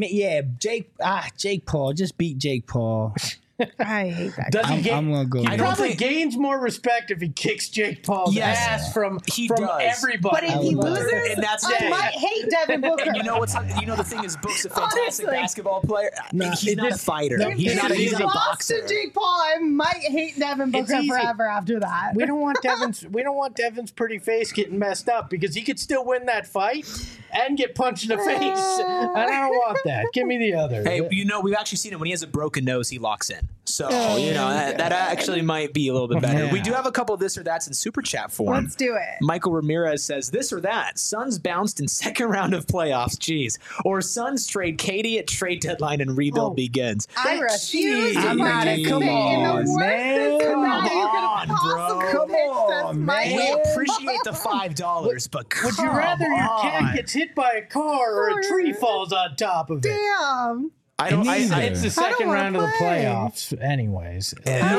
Jake Paul. Just beat Jake Paul. I hate that. I'm gonna go. He probably gains more respect if he kicks Jake Paul's ass from everybody. But if he loses, I might hate Devin Booker. And you know the thing is, Book's a fantastic basketball player. He's not a fighter. He's not a boxer. To Jake Paul, I might hate Devin Booker forever after that. We don't want Devin's pretty face getting messed up because he could still win that fight and get punched in the face. And I don't want that. Give me the other. Hey, we've actually seen it when he has a broken nose, he locks in. So, that actually might be a little bit better. Yeah. We do have a couple of this or that's in super chat form. Let's do it. Michael Ramirez says, this or that. Suns bounced in second round of playoffs. Jeez. Or Suns trade Katie at trade deadline and rebuild begins. I refuse to participate in the worst scenario you could possibly Come on, man. We appreciate the $5, but would you rather your cat gets hit by a car or a tree falls on top of it? Damn. It's the second round of the playoffs, anyways.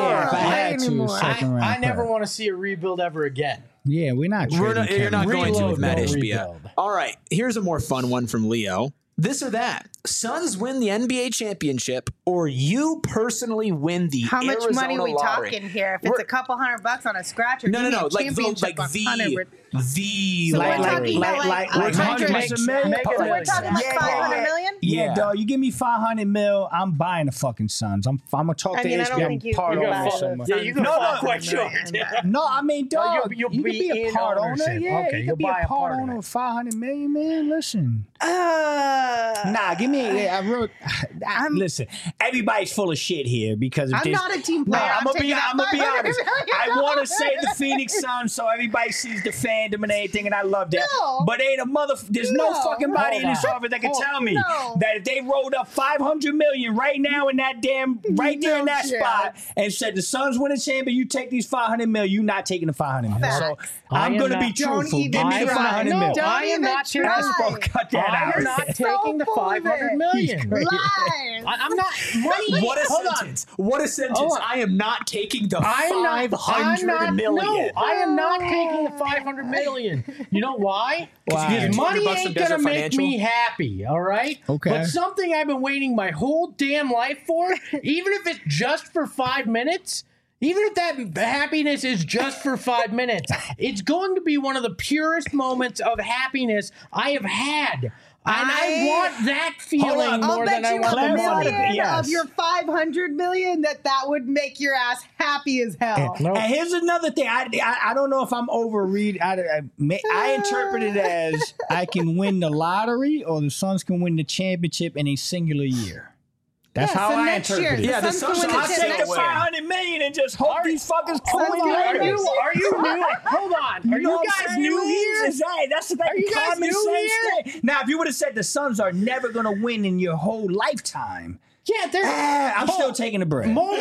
I never want to see a rebuild ever again. Yeah, you're not going to with Matt Ishbia. All right, here's a more fun one from Leo. This or that. Suns win the NBA championship, or you personally win the How much Arizona money we lottery. talking here? If it's a couple $100 on a scratcher, no, like the we're talking like $500 million. Yeah, dog. You give me $500 million, I'm buying the fucking Suns. I'm gonna talk to HBO part owner. Yeah, you can fall quite short. No, I mean, dog, you can be a part owner. Yeah, okay, you can be a part owner of $500 million, man. Listen. Nah, give me. Listen, everybody's full of shit here because I'm not a team player. I'm gonna be honest. I want to say the Phoenix Suns so everybody sees the fandom and everything, and I love that. No. But ain't there's no fucking body in this office that can tell me that if they rolled up $500 million right now in that right there in that spot and said the Suns win a champion, you take these $500 million, you not taking the $500 million. So I'm gonna be truthful. Give me the $500 million. I am not taking. Cut that out. I'm not taking the $500 million. I'm not. What a sentence! What a sentence! I am not taking the $500 million. No, I am not taking the $500 million. You know why? Because money ain't gonna make me happy. All right. Okay. But something I've been waiting my whole damn life for, even if it's just for 5 minutes, even if that happiness is just for 5 minutes, it's going to be one of the purest moments of happiness I have had. And I want that feeling more than I want the money. Of your 500 million, that would make your ass happy as hell. And here's another thing. I don't know if I'm overreading. I interpret it as I can win the lottery or the Suns can win the championship in a singular year. That's how I interpret it. Yeah, the Suns I'll take the 500 million and just hope these fuckers come in. Are you new? Hold on. Are you guys new here? That's the common sense thing. Now, if you would have said the Suns are never going to win in your whole lifetime, I'm still taking the bread. More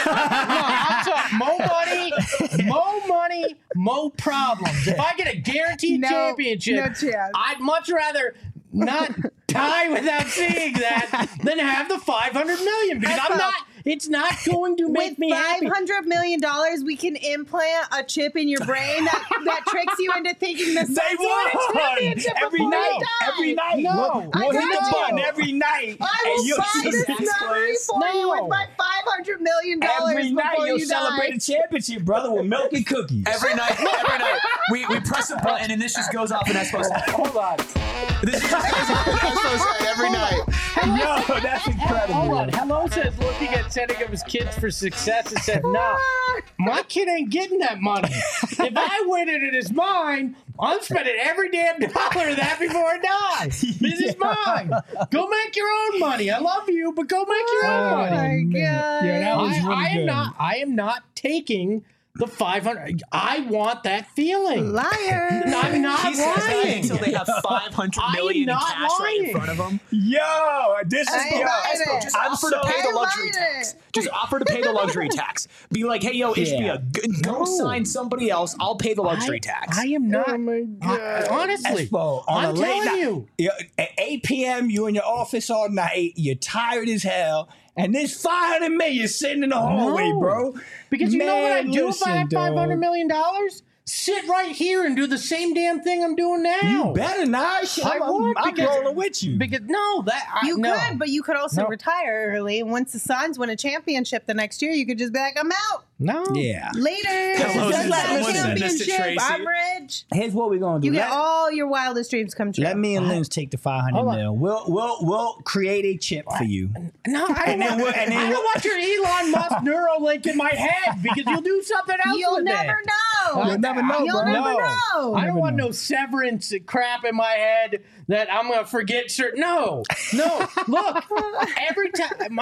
money, more problems. If I get a guaranteed championship, I'd much rather not die without seeing that than have the 500 million because it's not going to make me happy. With $500 million, we can implant a chip in your brain that tricks you into thinking the Suns won a championship every night. Every night. No. We'll hit the button every night. I will buy this memory for you with my $500 million. Every night you'll celebrate a championship, brother, with milk and cookies. Every night. We press a button and this just goes off in Espo's head. Hold on. This just goes off in Espo's head every night. Yo, that's incredible. Hold on. Hello says looking at setting up his kids for success and said, nah, my kid ain't getting that money. If I win it, it is mine. I'm spending every damn dollar of that before I die. This is mine. Go make your own money. I love you, but go make your own money. Oh my God. Yeah, that was really good. I am not taking the 500. I want that feeling. Liar. I'm not He says that lying. until they have 500 million in cash right in front of them. Yo, this is Espo, just offer to pay the luxury tax. Just offer to pay the luxury tax. Be like, hey, yo, HBO, go sign somebody else. I'll pay the luxury tax. I am not. Oh my God. Honestly, Espo, on I'm a late telling night, at 8 p.m., you're in your office all night. You're tired as hell. And there's 500 million sitting in the hallway, bro. Because you know what I'd do if I had $500 million? Sit right here and do the same damn thing I'm doing now. You better not. I'm rolling with you. Because You could, but you could also retire early. Once the Suns win a championship the next year, you could just be like, I'm out. No. Yeah. Later. Hello, Just got a listen, Mr. championship. Tracy. I'm rich. Here's what we're gonna do. You get all your wildest dreams come true. Let me and Linz take the 500 mil. We'll create a chip for you. No, I don't want your Elon Musk Neuralink in my head because you'll do something else You'll with never it. know. You'll never know, You'll bro. never know. I don't want no severance crap in my head that I'm going to forget certain. No. Look, every time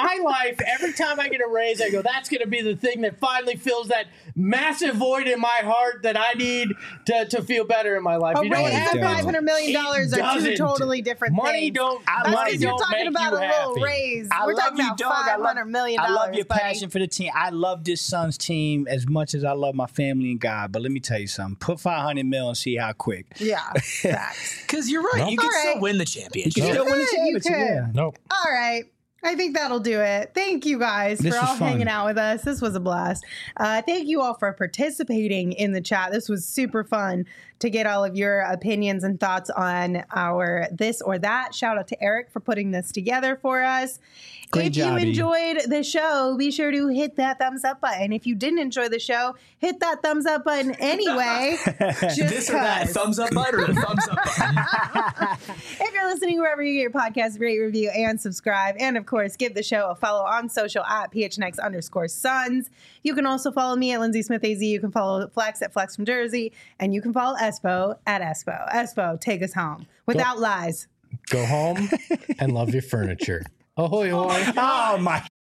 I get a raise, I go, that's going to be the thing that finally fills that massive void in my heart that I need to feel better in my life. A You know what raise and happens? $500 million are two doesn't. totally different Money things. don't. That's Money because you're don't talking make about you a little happy. raise. I We're love talking you, about dog. $500 million. I love your buddy. passion for the team. I love this Suns team as much as I love my family and God. But let me tell you something. Put 500 mil and see how quick. Yeah, facts. Because you're right. You can still win the championship. You can still win the You championship. could. Yeah. Nope. All right. I think that'll do it. Thank you guys This for was all fun. hanging out with us. This was a blast. Thank you all for participating in the chat. This was super fun to get all of your opinions and thoughts on our this or that. Shout out to Eric for putting this together for us. Great If job, you E. enjoyed the show, be sure to hit that thumbs up button. If you didn't enjoy the show, hit that thumbs up button anyway. Just This or that, 'cause. thumbs up button or a thumbs up button. If you're listening wherever you get your podcast, rate, review, and subscribe. And of course, give the show a follow on social at PHNX_Suns. You can also follow me at Lindsay Smith AZ. You can follow Flex at Flex from Jersey. And you can follow Espo at Espo. Espo, take us home without lies. Go home and love your furniture. Ahoy, ahoy. Oh, my